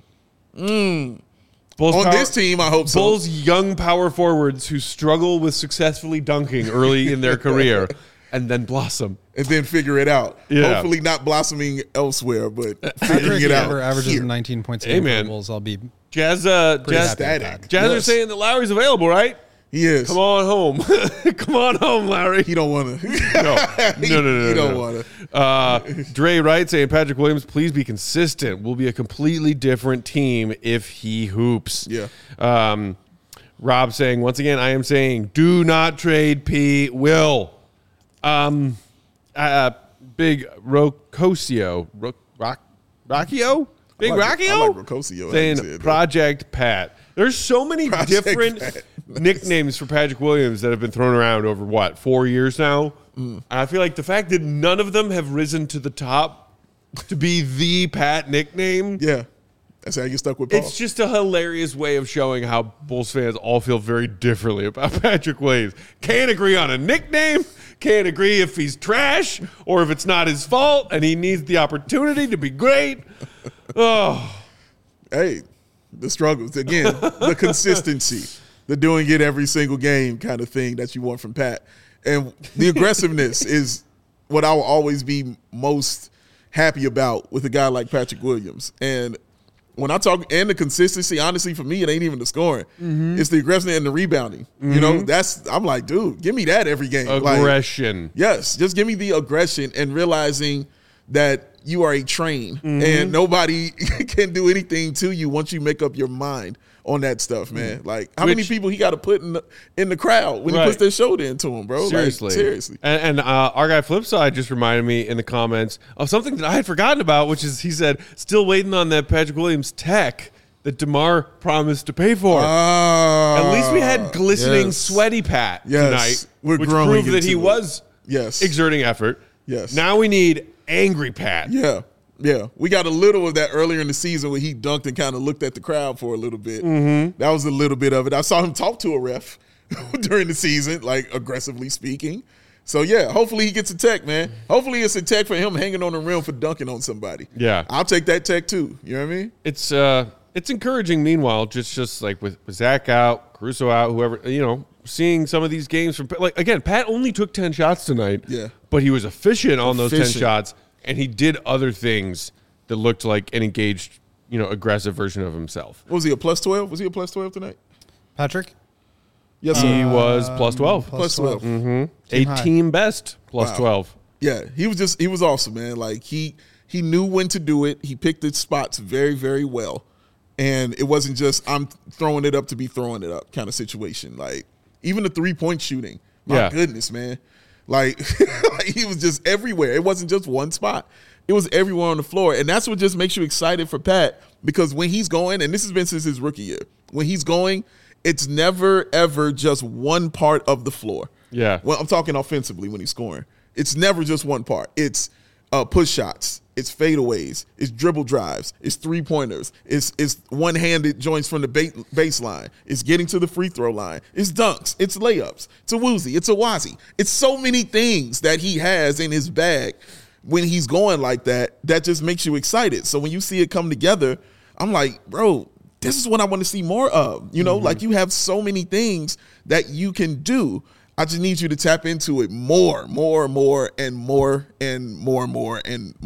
This team, I hope so. Bulls young power forwards who struggle with successfully dunking early in their career and then blossom. And then figure it out. Yeah. Hopefully not blossoming elsewhere, but figuring it out. Averages 19 points a game for the Bulls. I'll be Jazz static. Jazz are saying that Lowry's available, right? He is. Come on home. Come on home, Lowry. He don't want to. No. He don't want to. Dre Wright saying, Patrick Williams, please be consistent. We'll be a completely different team if he hoops. Yeah. Rob saying, once again, I am saying, do not trade P. Will. Big Rocosio. Rockio? Big Rockio? I like Rocosio. Saying Project Pat. There's so many different nicknames for Patrick Williams that have been thrown around over, 4 years now? And I feel like the fact that none of them have risen to the top to be the Pat nickname. Yeah. That's how you get stuck with Paul. It's just a hilarious way of showing how Bulls fans all feel very differently about Patrick Williams. Can't agree on a nickname. Can't agree if he's trash or if it's not his fault and he needs the opportunity to be great. Oh. Hey. The struggles. Again, the consistency, the doing it every single game kind of thing that you want from Pat. And the aggressiveness is what I will always be most happy about with a guy like Patrick Williams. And When I talk and the consistency, honestly, for me, it ain't even the scoring. It's the aggression and the rebounding. You know, I'm like, dude, give me that every game. Aggression. Like, yes, just give me the aggression and realizing that you are a train and nobody can do anything to you once you make up your mind on that stuff, man. Like, how many people he got to put in the crowd when he puts their shoulder into him, bro? Seriously. Like, seriously. And our guy Flipside just reminded me in the comments of something that I had forgotten about, which is he said, still waiting on that Patrick Williams tech that DeMar promised to pay for. At least we had glistening, sweaty Pat tonight, which proved that he was exerting effort. Yes. Now we need angry Pat. Yeah. Yeah, we got a little of that earlier in the season where he dunked and kind of looked at the crowd for a little bit. That was a little bit of it. I saw him talk to a ref during the season, like aggressively speaking. So, yeah, hopefully he gets a tech, man. Hopefully it's a tech for him hanging on the rim for dunking on somebody. Yeah. I'll take that tech too. You know what I mean? It's encouraging, meanwhile, just like with Zach out, Caruso out, whoever, seeing some of these games from, like, again, Pat only took 10 shots tonight. Yeah. But he was efficient on those 10 shots. And he did other things that looked like an engaged, aggressive version of himself. What was he, a plus 12? Was he a plus 12 tonight? Patrick? Yes, sir. He was plus 12. Plus 12. A team best plus 12. Yeah, he was awesome, man. Like, he knew when to do it. He picked his spots very, very well. And it wasn't just, I'm throwing it up to be throwing it up kind of situation. Like, even the three-point shooting, my goodness, man. Like, he was just everywhere. It wasn't just one spot. It was everywhere on the floor. And that's what just makes you excited for Pat, because when he's going, and this has been since his rookie year, when he's going, it's never, ever just one part of the floor. Yeah. Well, I'm talking offensively when he's scoring. It's never just one part. It's push shots. It's fadeaways. It's dribble drives. It's three-pointers. It's one-handed joints from the baseline. It's getting to the free throw line. It's dunks. It's layups. It's a woozy. It's a wazi. It's so many things that he has in his bag when he's going like that just makes you excited. So when you see it come together, I'm like, bro, this is what I want to see more of. Like, you have so many things that you can do. I just need you to tap into it more, and more, and more, and more, and more.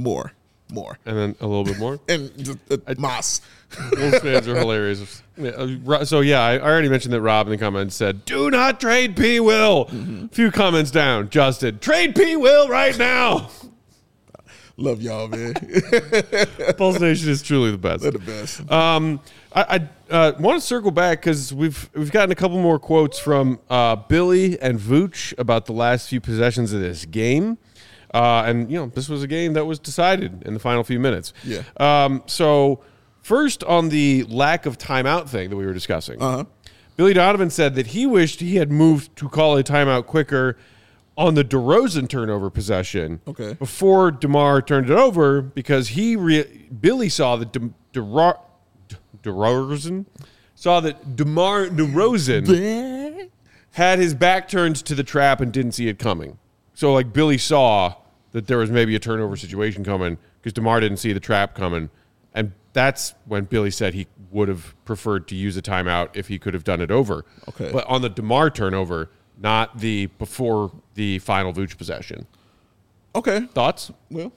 And then a little bit more. And just Moss. Bulls fans are hilarious. So, I already mentioned that Rob in the comments said, do not trade P. Will. A few comments down. Justin, trade P. Will right now. Love y'all, man. Bulls Nation is truly the best. They're the best. I want to circle back because we've gotten a couple more quotes from Billy and Vooch about the last few possessions of this game. And this was a game that was decided in the final few minutes. Yeah. So first on the lack of timeout thing that we were discussing, Billy Donovan said that he wished he had moved to call a timeout quicker on the DeRozan turnover possession before DeMar turned it over, because Billy saw that DeRozan had his back turned to the trap and didn't see it coming. So, like, Billy saw that there was maybe a turnover situation coming because DeMar didn't see the trap coming. And that's when Billy said he would have preferred to use a timeout if he could have done it over. Okay. But on the DeMar turnover, not the before the final Vooch possession. Okay. Thoughts? Well,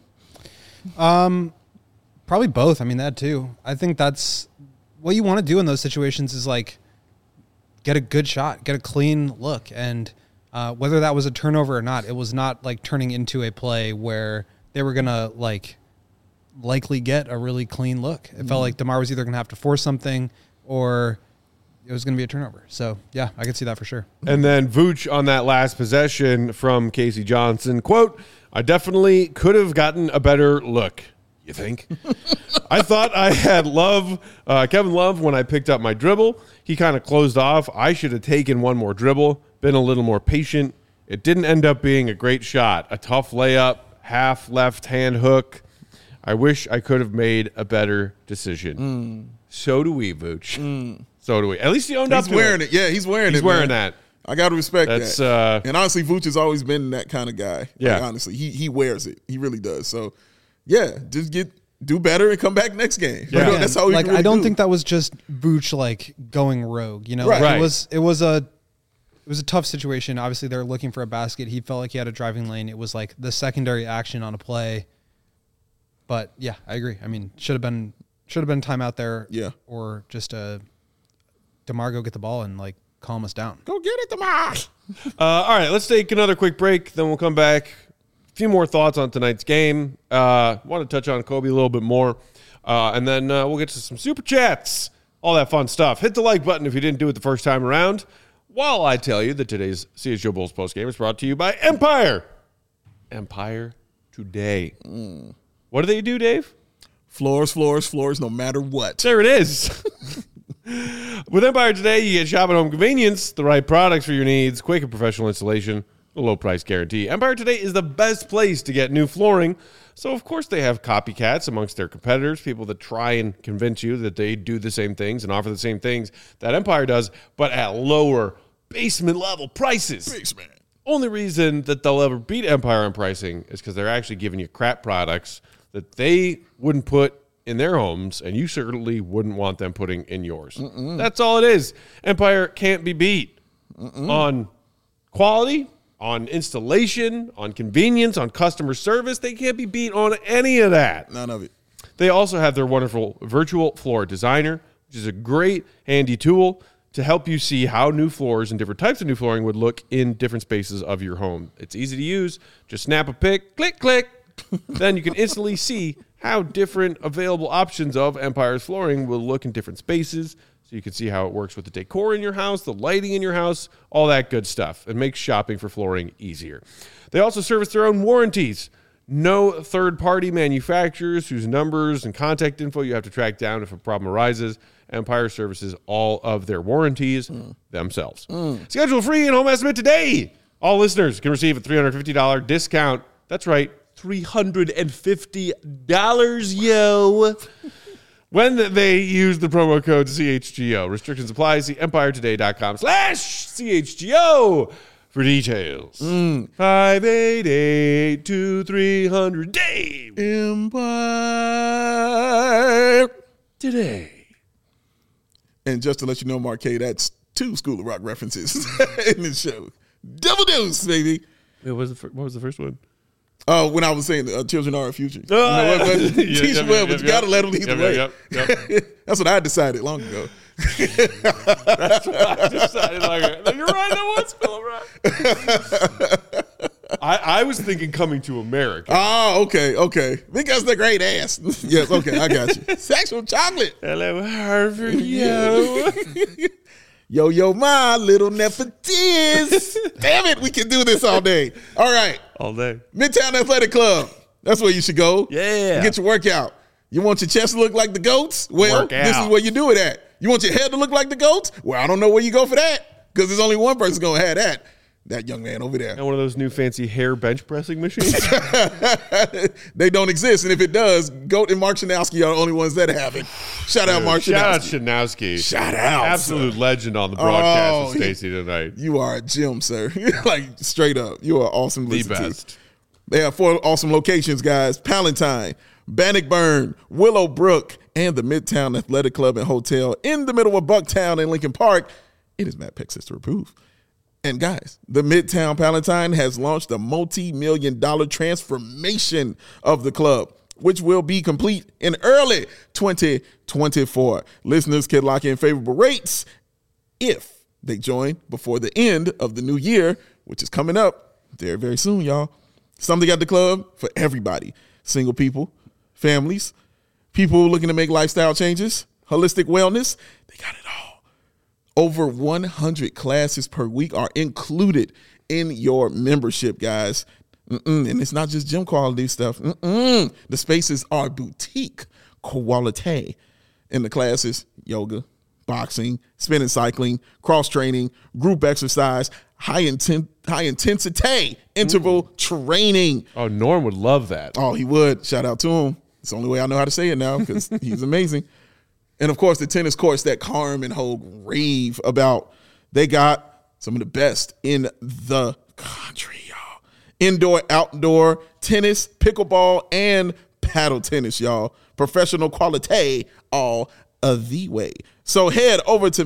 probably both. I mean, that too. I think that's what you want to do in those situations is, like, get a good shot, get a clean look. And whether that was a turnover or not, it was not like turning into a play where they were going to likely get a really clean look. It felt like DeMar was either going to have to force something or it was going to be a turnover. So, yeah, I could see that for sure. And then Vooch on that last possession from Casey Johnson, quote, I definitely could have gotten a better look. You think? I thought I had Kevin Love when I picked up my dribble. He kind of closed off. I should have taken one more dribble, been a little more patient. It didn't end up being a great shot. A tough layup, half left hand hook. I wish I could have made a better decision. So do we, Vooch. So do we. At least he owned up to it. He's wearing it. Yeah, he's wearing it. He's wearing that. I got to respect that. And honestly, Vooch has always been that kind of guy. Yeah. Like, honestly, he wears it. He really does. So, yeah, just do better and come back next game. Yeah. That's how we like, really I don't do. think that was just Vooch going rogue. Right. Like, it was a tough situation. Obviously, they're looking for a basket. He felt like he had a driving lane. It was like the secondary action on a play. But yeah, I agree. I mean, should have been Should have been timeout there. Yeah. Or just DeMar go get the ball and like calm us down. Go get it, DeMar. All right, let's take another quick break. Then we'll come back. A few more thoughts on tonight's game. Want to touch on Kobe a little bit more. And then we'll get to some super chats. All that fun stuff. Hit the like button if you didn't do it the first time around. While I tell you that today's CHGO Bulls postgame is brought to you by Empire. Empire Today. What do they do, Dave? Floors, no matter what. There it is. With Empire Today, you get shop at home convenience, the right products for your needs, quick and professional installation, a low price guarantee. Empire Today is the best place to get new flooring. So, of course, they have copycats amongst their competitors, people that try and convince you that they do the same things and offer the same things that Empire does, but at lower basement level prices. Basement. Only reason that they'll ever beat Empire on pricing is because they're actually giving you crap products that they wouldn't put in their homes, and you certainly wouldn't want them putting in yours. That's all it is. Empire can't be beat on quality, on installation, on convenience, on customer service. They can't be beat on any of that. None of it. They also have their wonderful virtual floor designer, which is a great handy tool to help you see how new floors and different types of new flooring would look in different spaces of your home. It's easy to use. Just snap a pic, click, click. Then you can instantly see how different available options of Empire's flooring will look in different spaces. So you can see how it works with the decor in your house, the lighting in your house, all that good stuff. It makes shopping for flooring easier. They also service their own warranties. No third-party manufacturers whose numbers and contact info you have to track down if a problem arises. Empire services all of their warranties themselves. Schedule free and home estimate today. All listeners can receive a $350 discount. That's right, $350, yo. When they use the promo code CHGO. Restrictions apply. See empiretoday.com/CHGO for details. 588-2300 Dave. Empire Today. And just to let you know, Marquet, that's 2 School of Rock references in this show. Double dose, baby. What was the first one? When I was saying children are our future. Teach them well, but you got to let them lead the way. Yep. That's what I decided long ago. That's what I decided. You're right, I was feeling right. I was thinking Coming to America. Oh, okay. Because the great ass. Yes, okay, I got you. Sexual chocolate. Hello, Harvard, yo. Yo, my little Nefertits. Damn it, we can do this all day. All right. All day. Midtown Athletic Club. That's where you should go. Yeah. Get your workout. You want your chest to look like the goats? Well, this is where you do it at. You want your head to look like the goats? Well, I don't know where you go for that because there's only one person going to have that. That young man over there. And one of those new fancy hair bench pressing machines. They don't exist. And if it does, Goat and Mark Shanowski are the only ones that have it. Shout out Mark Shanowski. Shout out Shanowski. Shout out. Absolute legend on the broadcast with Stacey tonight. You are a gem, sir. Like, straight up. You are awesome to listen the best. to. They have 4 awesome locations, guys. Palatine, Bannockburn, Willowbrook, and the Midtown Athletic Club and Hotel in the middle of Bucktown and Lincoln Park. It is Matt Peck Sister approved. And guys, the Midtown Palatine has launched a multi-million-dollar transformation of the club, which will be complete in early 2024. Listeners can lock in favorable rates if they join before the end of the new year, which is coming up very, very soon, y'all. Something at the club for everybody. Single people, families, people looking to make lifestyle changes, holistic wellness, they got it all. Over 100 classes per week are included in your membership, guys. And it's not just gym quality stuff. The spaces are boutique quality. In the classes, yoga, boxing, spin and cycling, cross-training, group exercise, high-intensity interval training. Oh, Norm would love that. Oh, he would. Shout out to him. It's the only way I know how to say it now because he's amazing. And, of course, the tennis courts that Carm and Hogue rave about. They got some of the best in the country, y'all. Indoor, outdoor tennis, pickleball, and paddle tennis, y'all. Professional quality all of the way. So head over to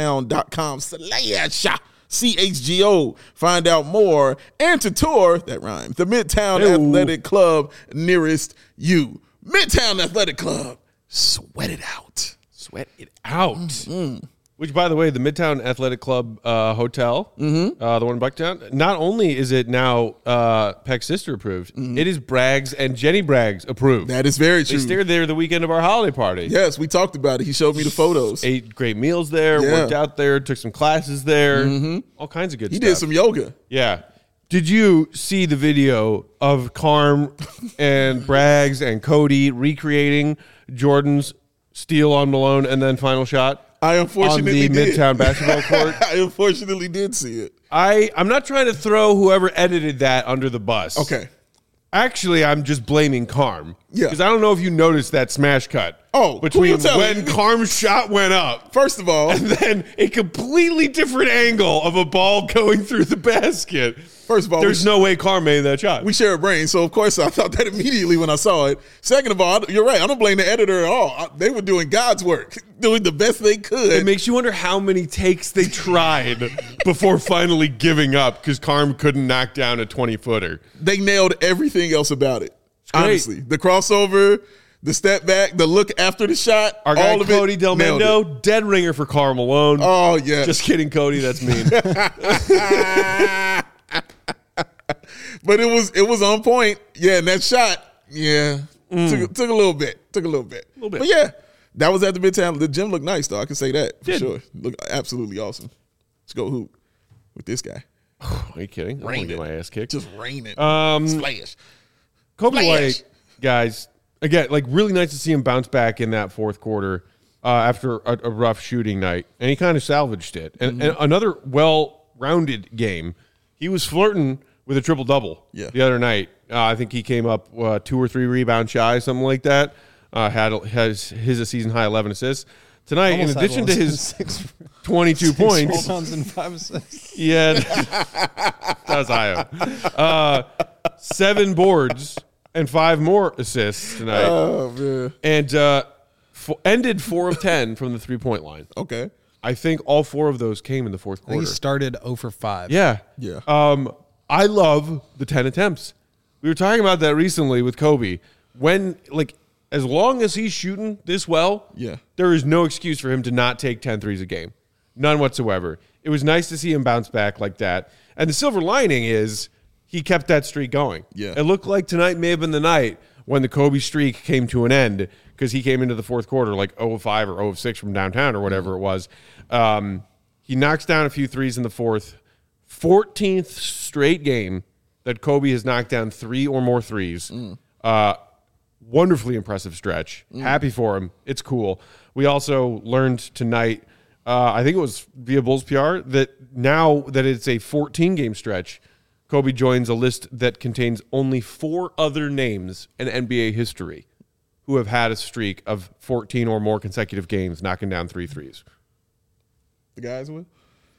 midtown.com/CHGO. Find out more and to tour, that rhymes, the Midtown Athletic Club nearest you. Midtown Athletic Club. sweat it out. Sweat it out. Which, by the way, the Midtown Athletic Club hotel, the one in Bucktown, not only is it now Peck's sister approved, it is Braggs and Jenny Braggs approved. That is very true. They stayed there the weekend of our holiday party. Yes, we talked about it. He showed me the photos. Ate great meals there, worked out there, took some classes there, all kinds of good stuff. He did some yoga. Yeah. Did you see the video of Carm and Braggs and Cody recreating Jordan's steal on Malone and then final shot? I unfortunately on the did. Midtown basketball court. I unfortunately did see it. I'm not trying to throw whoever edited that under the bus. Okay. Actually, I'm just blaming Carm. Yeah. Because I don't know if you noticed that smash cut. Oh, between who you when Carm's shot went up. First of all. And then a completely different angle of a ball going through the basket. First of all. There's no way Carm made that shot. We share a brain, so of course I thought that immediately when I saw it. Second of all, you're right. I don't blame the editor at all. They were doing God's work, doing the best they could. It makes you wonder how many takes they tried before finally giving up because Carm couldn't knock down a 20-footer. They nailed everything else about it. Great. Honestly, the crossover, the step back, the look after the shot, Our guy all of Cody it, Del nailed Mendo, it. dead ringer for Karl Malone. Oh, yeah. Just kidding, Cody. That's mean. But it was on point. Yeah, and that shot, took a little bit. But yeah, that was at the Midtown. The gym looked nice, though. I can say that for sure. Looked absolutely awesome. Let's go hoop with this guy. Are you kidding? I'm going to get my ass kicked. Just raining. Splash. Kobe Splash. White, guys, again, like really nice to see him bounce back in that fourth quarter after a rough shooting night. And he kind of salvaged it. And another well-rounded game. He was flirting with a triple-double the other night. I think he came up 2 or 3 rebounds shy, something like that. Has his season-high 11 assists. Tonight, in addition to his 22 points. 6 rebounds and 5 assists. Yeah, that was Io. 7 boards and 5 more assists tonight. Oh, man. And ended 4 of 10 from the three-point line. Okay. I think all 4 of those came in the fourth I think quarter. he started 0 for 5. Yeah. I love the 10 attempts. We were talking about that recently with Kobe. When, like, as long as he's shooting this well, there is no excuse for him to not take 10 threes a game. None whatsoever. It was nice to see him bounce back like that. And the silver lining is he kept that streak going. Yeah. It looked like tonight may have been the night when the Kobe streak came to an end because he came into the fourth quarter like 0 of 5 or 0 of 6 from downtown or whatever it was. He knocks down a few threes in the fourth. 14th straight game that Kobe has knocked down 3 or more threes. Wonderfully impressive stretch. Happy for him. It's cool. We also learned tonight, I think it was via Bulls PR, that now that it's a 14-game stretch, Kobe joins a list that contains only 4 other names in NBA history who have had a streak of 14 or more consecutive games knocking down 3 threes. The guys with?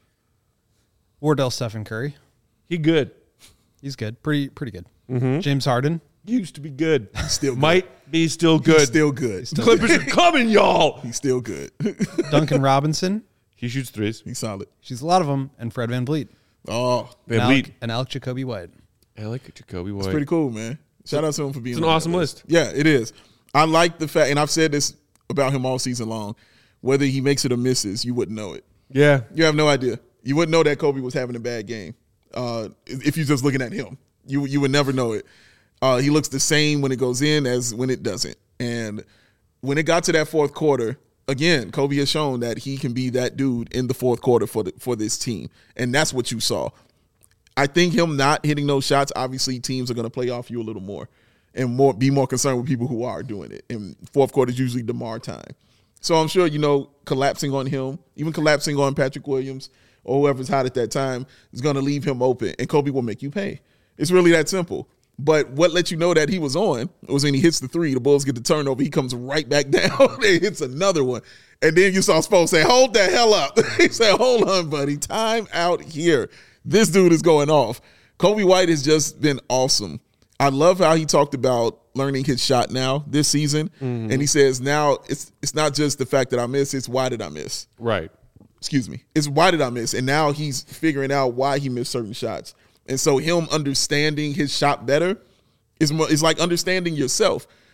Wardell Stephen Curry. He good. He's good. Pretty good. James Harden. Used to be good. Still good. Might be still good. He's still good. Clippers are coming, y'all. He's still good. Duncan Robinson. He shoots threes. He's solid. She's a lot of them. And Fred VanVleet. Oh, And Alec Jacoby White. I like Jacoby White. it's pretty cool, man. Shout out to him for being It's an on that awesome list. Yeah, it is. I like the fact, and I've said this about him all season long, whether he makes it or misses, you wouldn't know it. Yeah. You have no idea. You wouldn't know that Kobe was having a bad game if you're just looking at him. You would never know it. He looks the same when it goes in as when it doesn't. And when it got to that fourth quarter, again, Kobe has shown that he can be that dude in the fourth quarter for this team. And that's what you saw. I think him not hitting those shots, obviously teams are going to play off you a little more and be more concerned with people who are doing it. And fourth quarter is usually DeMar time. So I'm sure, collapsing on him, even collapsing on Patrick Williams or whoever's hot at that time is going to leave him open, and Kobe will make you pay. It's really that simple. But what lets you know that he was on was when he hits the 3, the Bulls get the turnover, he comes right back down and hits another one. And then you saw Spo say, hold the hell up. He said, hold on, buddy. Time out here. This dude is going off. Kobe White has just been awesome. I love how he talked about learning his shot now this season. Mm-hmm. And he says now it's not just the fact that I miss, it's why did I miss? Right. Excuse me. It's why did I miss? And now he's figuring out why he missed certain shots. And so him understanding his shot better is like understanding yourself.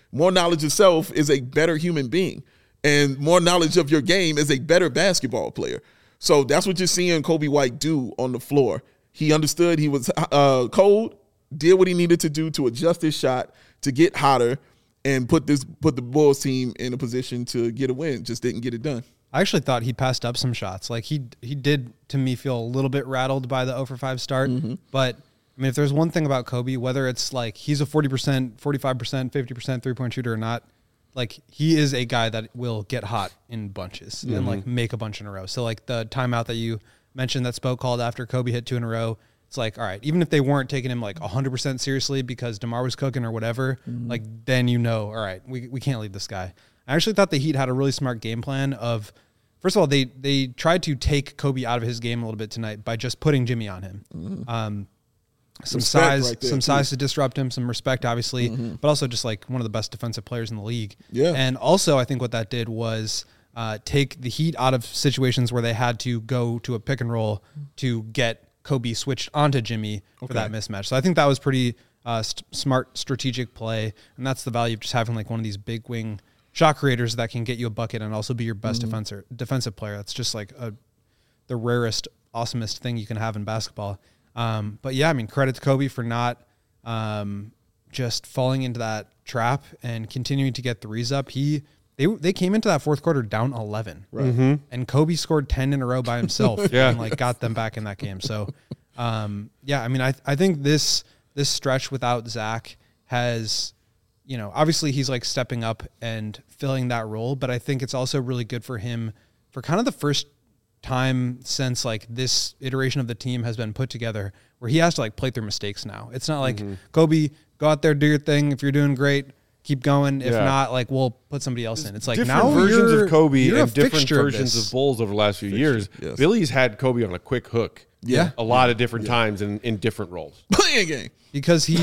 More knowledge of self is a better human being, and more knowledge of your game is a better basketball player. So that's what you're seeing Coby White do on the floor. He understood he was cold, did what he needed to do to adjust his shot, to get hotter, and put the Bulls team in a position to get a win. Just didn't get it done. I actually thought he passed up some shots. Like he did, to me, feel a little bit rattled by the 0-for-5 start. But I mean, if there's one thing about Coby, whether it's like he's a 40%, 45%, 50% three-point shooter or not, like he is a guy that will get hot in bunches and like make a bunch in a row. So like the timeout that you mentioned that Spo called after Coby hit 2 in a row, it's like, all right, even if they weren't taking him like 100% seriously because DeMar was cooking or whatever, like then all right, we can't leave this guy. I actually thought the Heat had a really smart game plan of, first of all, they tried to take Coby out of his game a little bit tonight by just putting Jimmy on him. Some Respect size to disrupt him, some respect, obviously, but also just like one of the best defensive players in the league. Yeah. And also I think what that did was take the Heat out of situations where they had to go to a pick and roll to get Coby switched onto Jimmy for that mismatch. So I think that was pretty smart strategic play, and that's the value of just having like one of these big wing shot creators that can get you a bucket and also be your best defensive player. That's just like the rarest, awesomest thing you can have in basketball. But yeah, I mean, credit to Coby for not just falling into that trap and continuing to get threes up. They came into that fourth quarter down 11, right? And Coby scored 10 in a row by himself and like got them back in that game. So, yeah, I mean, I think this stretch without Zach has, you know, obviously he's like stepping up and filling that role, but I think it's also really good for him for kind of the first time since like this iteration of the team has been put together where he has to like play through mistakes now. It's not like Coby, go out there, do your thing. If you're doing great, keep going. If not, like we'll put somebody else in. It's like different now versions of Coby you're and a different fixture versions of Bulls over the last few years. Yes. Billy's had Coby on a quick hook. Yeah. A lot of different times in different roles. Playing a game. because he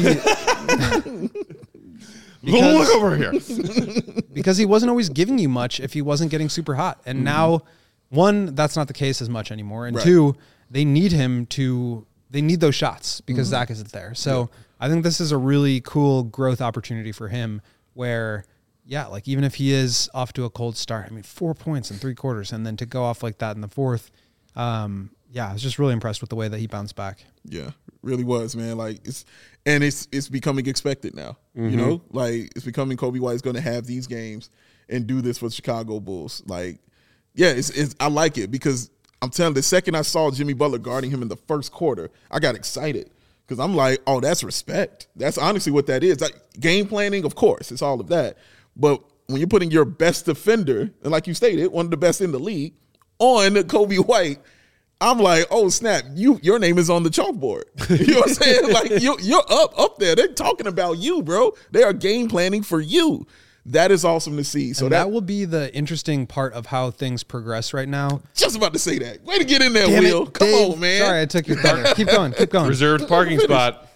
Look over here. because he wasn't always giving you much if he wasn't getting super hot. And now, one, that's not the case as much anymore. And two, they need those shots because Zach isn't there. So I think this is a really cool growth opportunity for him where, yeah, like even if he is off to a cold start, I mean, 4 points in 3 quarters and then to go off like that in the fourth, yeah, I was just really impressed with the way that he bounced back. Yeah, really was, man. Like it's becoming expected now. You know, like it's becoming Coby White's going to have these games and do this for the Chicago Bulls. Like, yeah, it's I like it because I'm telling you, the second I saw Jimmy Butler guarding him in the first quarter, I got excited because I'm like, oh, that's respect. That's honestly what that is. Like game planning, of course, it's all of that. But when you're putting your best defender, and like you stated, one of the best in the league, on Coby White, I'm like, oh snap! Your name is on the chalkboard. You know what I'm saying? Like you're up there. They're talking about you, bro. They are game planning for you. That is awesome to see. So and that will be the interesting part of how things progress right now. Just about to say that. Way to get in there, Damn Will. it, Come Dave. on, man. Sorry, I took your thunder. Keep going. Reserved parking spot.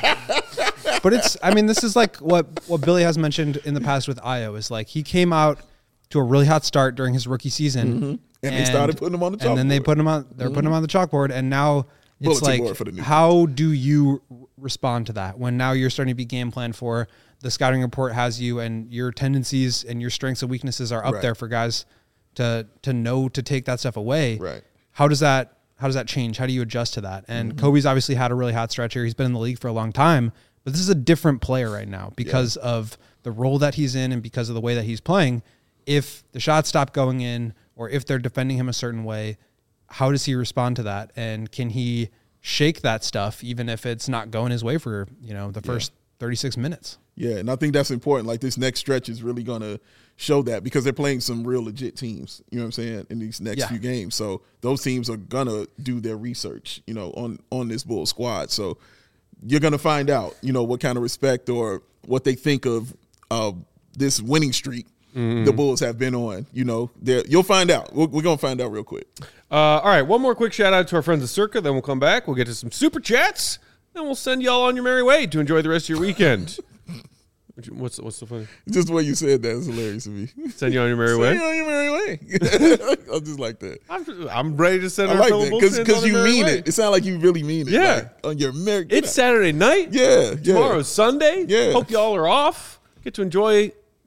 But I mean, this is like what Billy has mentioned in the past with Ayo is like he came out to a really hot start during his rookie season. And they started putting him on the chalkboard. And then they put him on. They're putting him on the chalkboard, and now it's Bulletin board for the like, new how do you respond to that when now you're starting to be game planned for? The scouting report has you, and your tendencies and your strengths and weaknesses are up there for guys to know to take that stuff away. Right. How does that change? How do you adjust to that? And Coby's obviously had a really hot stretch here. He's been in the league for a long time, but this is a different player right now because of the role that he's in and because of the way that he's playing. If the shots stop going in, or if they're defending him a certain way, how does he respond to that? And can he shake that stuff even if it's not going his way for, the first 36 minutes? Yeah, and I think that's important. Like this next stretch is really going to show that because they're playing some real legit teams, you know what I'm saying, in these next few games. So those teams are going to do their research, on this Bulls squad. So you're going to find out, what kind of respect or what they think of this winning streak the Bulls have been on. You'll find out. We're going to find out real quick. All right, one more quick shout out to our friends at Circa, then we'll come back. We'll get to some super chats, then we'll send y'all on your merry way to enjoy the rest of your weekend. What's the funny? Just the way you said that is hilarious to me. Send you on your merry way? Send you on your merry way. I just like that. I'm ready to send I our like fellow that Bulls because you mean way. it. It sounds like you really mean it. Yeah. Like, on your merry. It's Saturday night. Yeah. Tomorrow's Sunday. Yeah. Hope y'all are off. Get to enjoy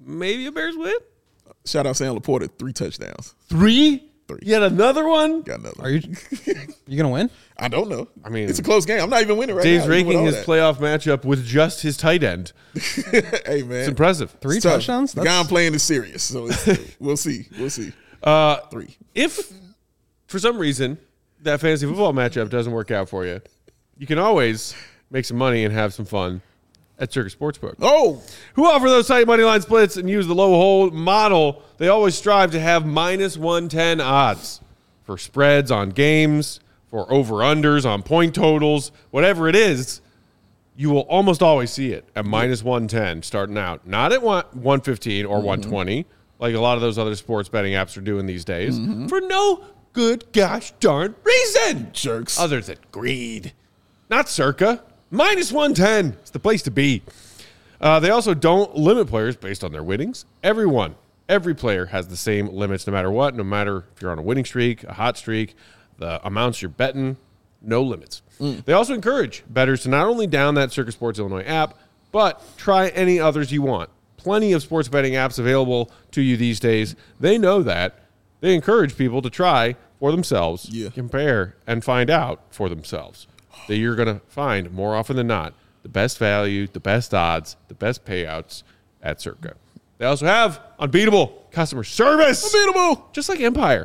maybe a Bears win. Shout out Sam Laporta, 3 touchdowns. 3? 3. Yet another one? Got another. Are you gonna win? I don't know. I mean, it's a close game. I'm not even winning right Dave's now. ranking his playoff matchup with just his tight end. Hey, man. It's impressive. 3 It's tough. touchdowns? The guy I'm playing is serious, so we'll see. We'll see. 3. If for some reason that fantasy football matchup doesn't work out for you, you can always make some money and have some fun at Circus Sportsbook. Oh, Who offer those tight money line splits and use the low hold model. They always strive to have minus 110 odds for spreads on games, for over-unders on point totals, whatever it is. You will almost always see it at minus 110 starting out. Not at 115 or 120, like a lot of those other sports betting apps are doing these days, for no good gosh darn reason. jerks. Other than greed. Not Circa. Minus 110. It's the place to be. They also don't limit players based on their winnings. Every player has the same limits no matter what, no matter if you're on a winning streak, a hot streak, the amounts you're betting, no limits. They also encourage bettors to not only down that Circa Sports Illinois app, but try any others you want. Plenty of sports betting apps available to you these days. They know that. They encourage people to try for themselves, compare, and find out for themselves. That you're going to find more often than not the best value, the best odds, the best payouts at Circa. They also have unbeatable customer service. Unbeatable. Just like Empire.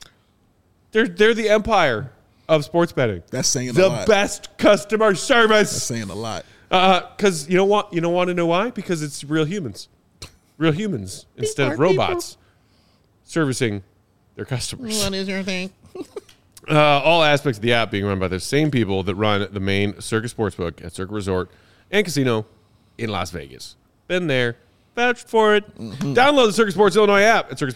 They're the Empire of sports betting. That's saying a the lot. best customer service. That's saying a lot. Because you don't want to know why? Because it's real humans. Real humans instead of robots servicing their customers. What is your thing? All aspects of the app being run by the same people that run the main Circa Sportsbook at Circa Resort and Casino in Las Vegas. Been there. Vouched for it. Download the Circa Sports Illinois app at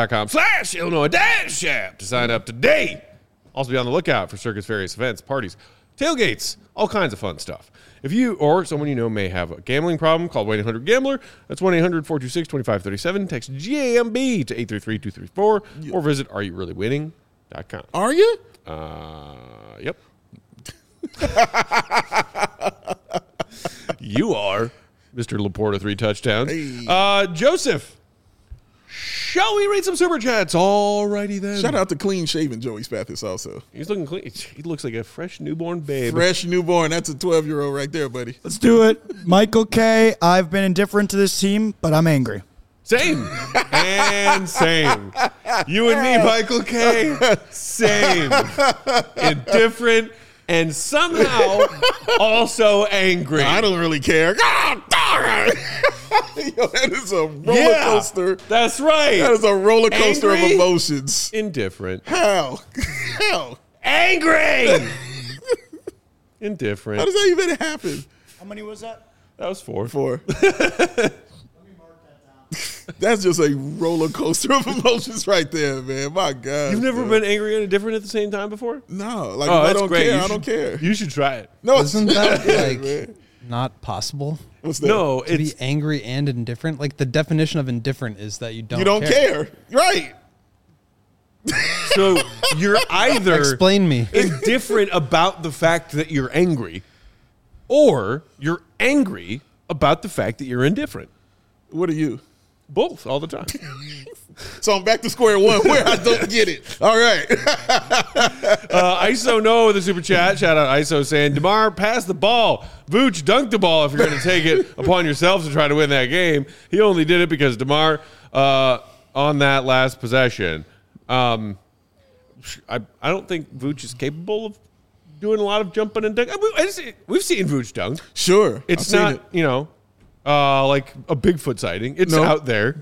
circasports.com/Illinois-app to sign up today. Also be on the lookout for Circa's various events, parties, tailgates, all kinds of fun stuff. If you or someone you know may have a gambling problem, call 1-800-GAMBLER. That's 1-800-426-2537. Text GAMB to 833-234 or visit areyoureallywinning.com. Are you? Yep. You are, Mr. Laporta, 3 touchdowns. Hey. Joseph, shall we read some super chats? Alrighty then. Shout out to clean shaven Joey Spathis also. He's looking clean. He looks like a fresh newborn babe. Fresh newborn. That's a 12-year-old right there, buddy. Let's do it. Michael K. I've been indifferent to this team, but I'm angry. Same. And same. You and me, Michael K. Same. Indifferent and somehow also angry. I don't really care. God darn it. Yo, that is a roller coaster. That's right. That is a roller coaster Angry? of emotions. Indifferent. How? How? Angry. Indifferent. How does that even happen? How many was that? That was 4. 4. That's just a roller coaster of emotions right there, man. My God. You've never been angry and indifferent at the same time before? No. Like, Oh, if I that's don't great. care, You I should- don't care. You should try it. No, Isn't that like man. not possible? What's that? No, To be it's angry and indifferent? Like the definition of indifferent is that you don't You don't care. Right. so you're either Explain me. indifferent about the fact that you're angry, or you're angry about the fact that you're indifferent. What are you? Both all the time. So I'm back to square one where I don't get it. All right. ISO Noah with a super chat. Shout out ISO saying, DeMar, pass the ball. Vooch, dunk the ball if you're going to take it upon yourself to try to win that game. He only did it because DeMar, on that last possession, I don't think Vooch is capable of doing a lot of jumping and dunking. We've seen Vooch dunk. Sure. It's I've not, seen it. like a Bigfoot sighting. It's No. out there.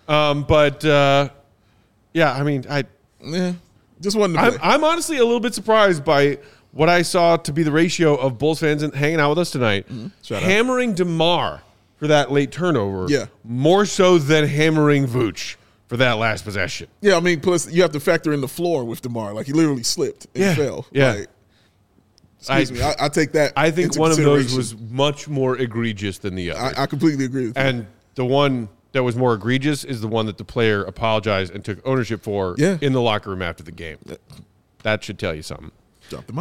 Yeah, I mean, Yeah. Just wanted to play. I'm honestly a little bit surprised by what I saw to be the ratio of Bulls fans hanging out with us tonight, Shout out. hammering DeMar for that late turnover, Yeah. more so than hammering Vooch for that last possession. Yeah, I mean, plus you have to factor in the floor with DeMar. Like, he literally slipped and fell. Yeah. Like, excuse me. I take that. I think into one of those consideration. was much more egregious than the other. I completely agree with that. And the one that was more egregious is the one that the player apologized and took ownership for Yeah. in the locker room after the game. That should tell you something. Drop the mic.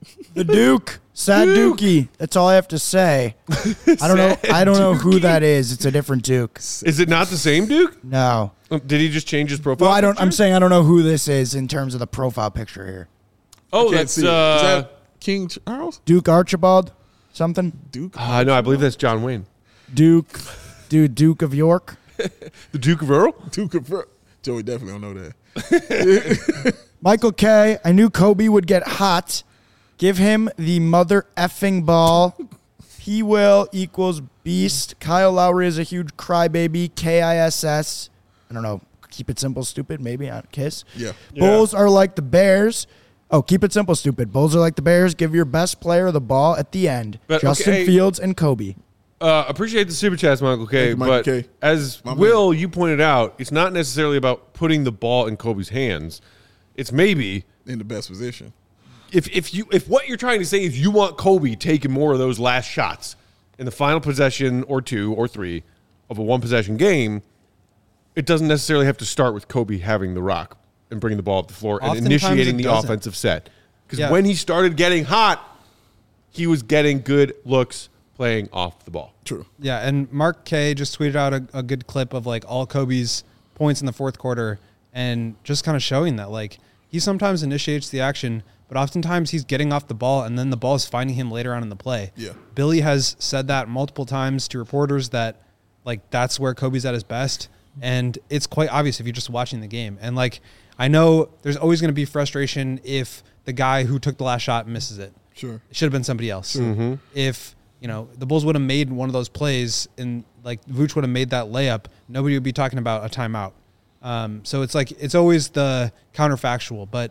The Duke. Sad Dookie. That's all I have to say. I don't know who that is. It's a different Duke. Is it not the same Duke? No. Did he just change his profile? Well, I'm saying I don't know who this is in terms of the profile picture here. Oh, Can't that's see it. Is that King Charles? Duke Archibald? Something? Duke? no, I believe that's John Wayne. Duke of York? The Duke of Earl? Duke of Joey definitely don't know that. Michael K. I knew Kobe would get hot. Give him the mother effing ball. He will equals beast. Kyle Lowry is a huge crybaby. KISS. I don't know. Keep it simple, stupid. Maybe on Kiss. Yeah. Bulls are like the Bears. Oh, keep it simple, stupid. Bulls are like the Bears. Give your best player the ball at the end. But, Justin okay. Fields and Kobe. Appreciate the super chats, Michael K. Thank you, Michael But K. as Will, you pointed out, it's not necessarily about putting the ball in Kobe's hands. It's maybe In the best position. if what you're trying to say is you want Kobe taking more of those last shots in the final possession or 2 or 3 of a one possession game, it doesn't necessarily have to start with Kobe having the rock and bringing the ball up the floor and Oftentimes initiating it the doesn't. offensive set. Because Yeah. when he started getting hot, he was getting good looks playing off the ball. True. Yeah, and Mark K just tweeted out a good clip of like all Kobe's points in the fourth quarter and just kind of showing that like he sometimes initiates the action, but oftentimes he's getting off the ball and then the ball is finding him later on in the play. Yeah. Billy has said that multiple times to reporters that like that's where Kobe's at his best, and it's quite obvious if you're just watching the game. And like I know there's always going to be frustration if the guy who took the last shot misses it. Sure. It should have been somebody else. If the Bulls would have made one of those plays and like Vooch would have made that layup, nobody would be talking about a timeout. So it's like it's always the counterfactual. But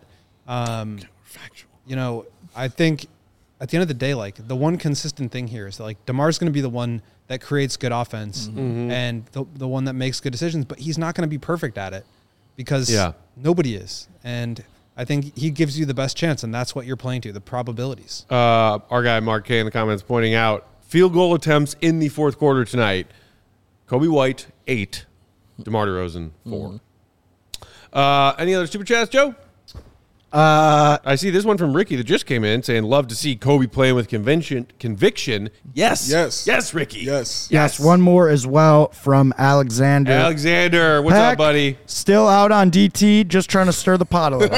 I think at the end of the day, like the one consistent thing here is that like DeMar's going to be the one that creates good offense and the one that makes good decisions, but he's not going to be perfect at it because nobody is. And I think he gives you the best chance, and that's what you're playing to, the probabilities. Our guy Mark K in the comments pointing out field goal attempts in the fourth quarter tonight. Kobe White 8, DeMar DeRozan 4. Any other super chats, Joe? I see this one from Ricky that just came in saying, love to see Kobe playing with conviction. Yes. Yes, Ricky. Yes. One more as well from Alexander. Alexander, what's Heck, up, buddy? Still out on DT, just trying to stir the pot a little.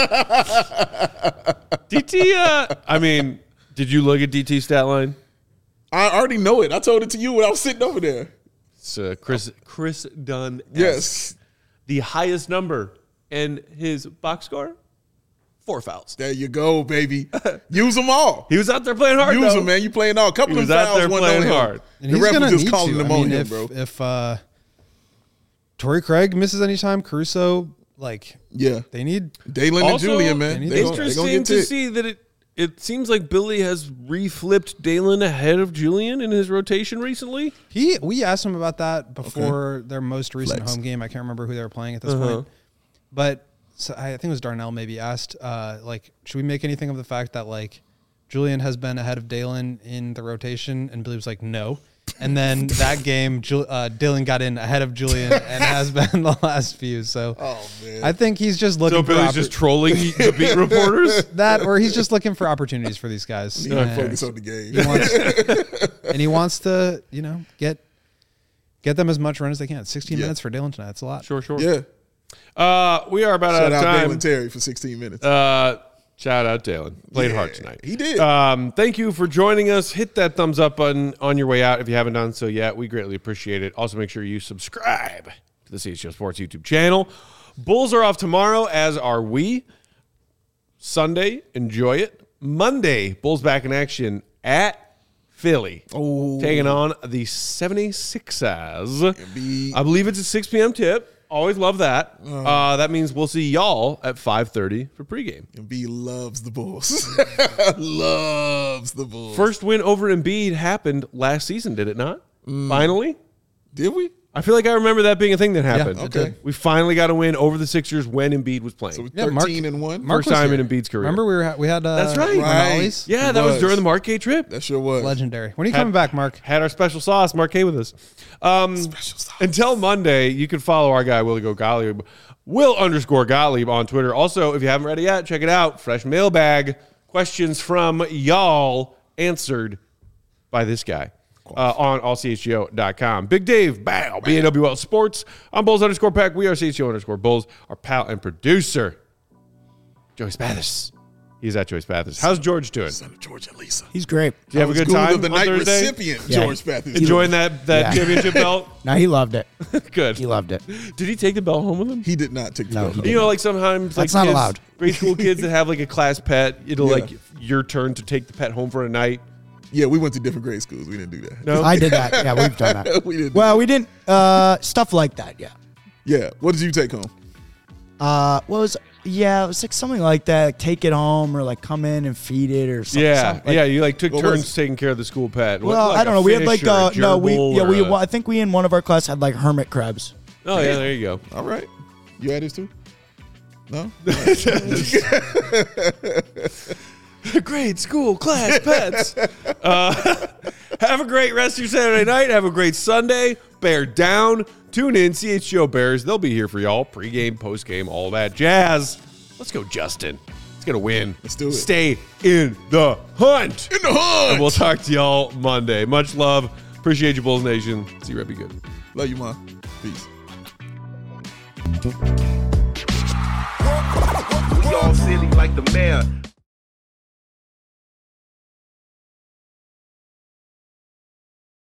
DT, I mean, did you look at DT's stat line? I already know it. I told it to you when I was sitting over there. It's Chris Dunn. Yes. The highest number in his box score, 4 fouls. There you go, baby. Use them all. He was out there playing hard, Use though. them, man. You playing all. A couple He of was out fouls there went playing on him. hard. And The he's ref gonna was just need calling to. them I on mean, him, bro. if Torrey Craig misses any time, Caruso, like Yeah. they need Dalen and Also, Julian, man. They gonna Interesting get to ticked. see that it seems like Billy has reflipped Dalen ahead of Julian in his rotation recently. we asked him about that before their most recent Flex. home game. I can't remember who they were playing at this point, but I think it was Darnell maybe asked like, should we make anything of the fact that like Julian has been ahead of Dalen in the rotation, and Billy was like no. And then that game, Dalen got in ahead of Julian and has been the last few. So man. I think he's just looking So for Billy's just trolling the beat reporters. that, or he's just looking for opportunities for these guys. He can And focus on the game. he wants to, get them as much run as they can. 16 minutes for Dalen tonight. That's a lot. Sure. Yeah. We are about Shout out of out time. Dalen Terry for 16 minutes. Shout out Dalen. Played hard tonight. He did. Thank you for joining us. Hit that thumbs up button on your way out if you haven't done so yet. We greatly appreciate it. Also, make sure you subscribe to the CHGO Sports YouTube channel. Bulls are off tomorrow, as are we. Sunday, enjoy it. Monday, Bulls back in action at Philly. Taking on the 76ers. I believe it's a 6 p.m. tip. Always love that. That means we'll see y'all at 5:30 for pregame. Embiid loves the Bulls. Loves the Bulls. First win over Embiid happened last season, did it not? Finally? Did we? I feel like I remember that being a thing that happened. it did. We finally got a win over the Sixers when Embiid was playing. So we're Yeah, 13-1. Mark First was time here. in Embiid's career. Remember we had That's right. Rinaldi's? Yeah, It that was was. during the Marquet trip. That sure was. Legendary. When are you coming back, Mark? Had our special sauce, Marquet, with us. Until Monday, you can follow our guy, Willie Go Gottlieb, Will_Gottlieb on Twitter. Also, if you haven't read it yet, check it out. Fresh mailbag questions from y'all answered by this guy on allchgo.com. Big Dave, bow, BAWL Sports. I'm Bulls_Pack. We are CHGO_Bulls. Our pal and producer, Joey Spathis. He's at Joey Spathis. How's George doing? Son of George and Lisa. He's great. Did you have a good time of the on night Thursday? recipient, Yeah. George Spathis. Enjoying that championship belt? No, he loved it. Good. He loved it. Did he take the belt home with him? He did not take the No, belt. he home. You know, like sometimes, like That's not kids, allowed. grade school kids that have like a class pet, it'll Yeah. like your turn to take the pet home for a night. Yeah, we went to different grade schools. We didn't do that. No, I did that. Yeah, we've done that. We didn't. do Well, we didn't. Stuff like that. Yeah. Yeah. What did you take home? It was like something like that. Like take it home or like come in and feed it or something. yeah, something like- yeah. You like took What was turns it? taking care of the school pet. Well, Like I don't a know. We had fish like or a gerbil or a- I think we in one of our class had like hermit crabs. Oh yeah, there you go. All right. You had this too? No? Great school class pets. Have a great rest of your Saturday night. Have a great Sunday. Bear down. Tune in. CHGO Bears. They'll be here for y'all. Pre-game, post-game, all that jazz. Let's go, Justin. It's going to win. Let's do it. Stay in the hunt. In the hunt! And we'll talk to y'all Monday. Much love. Appreciate you, Bulls Nation. See you, Red. Be good. Love you, Mom. Peace. We all silly like the mayor.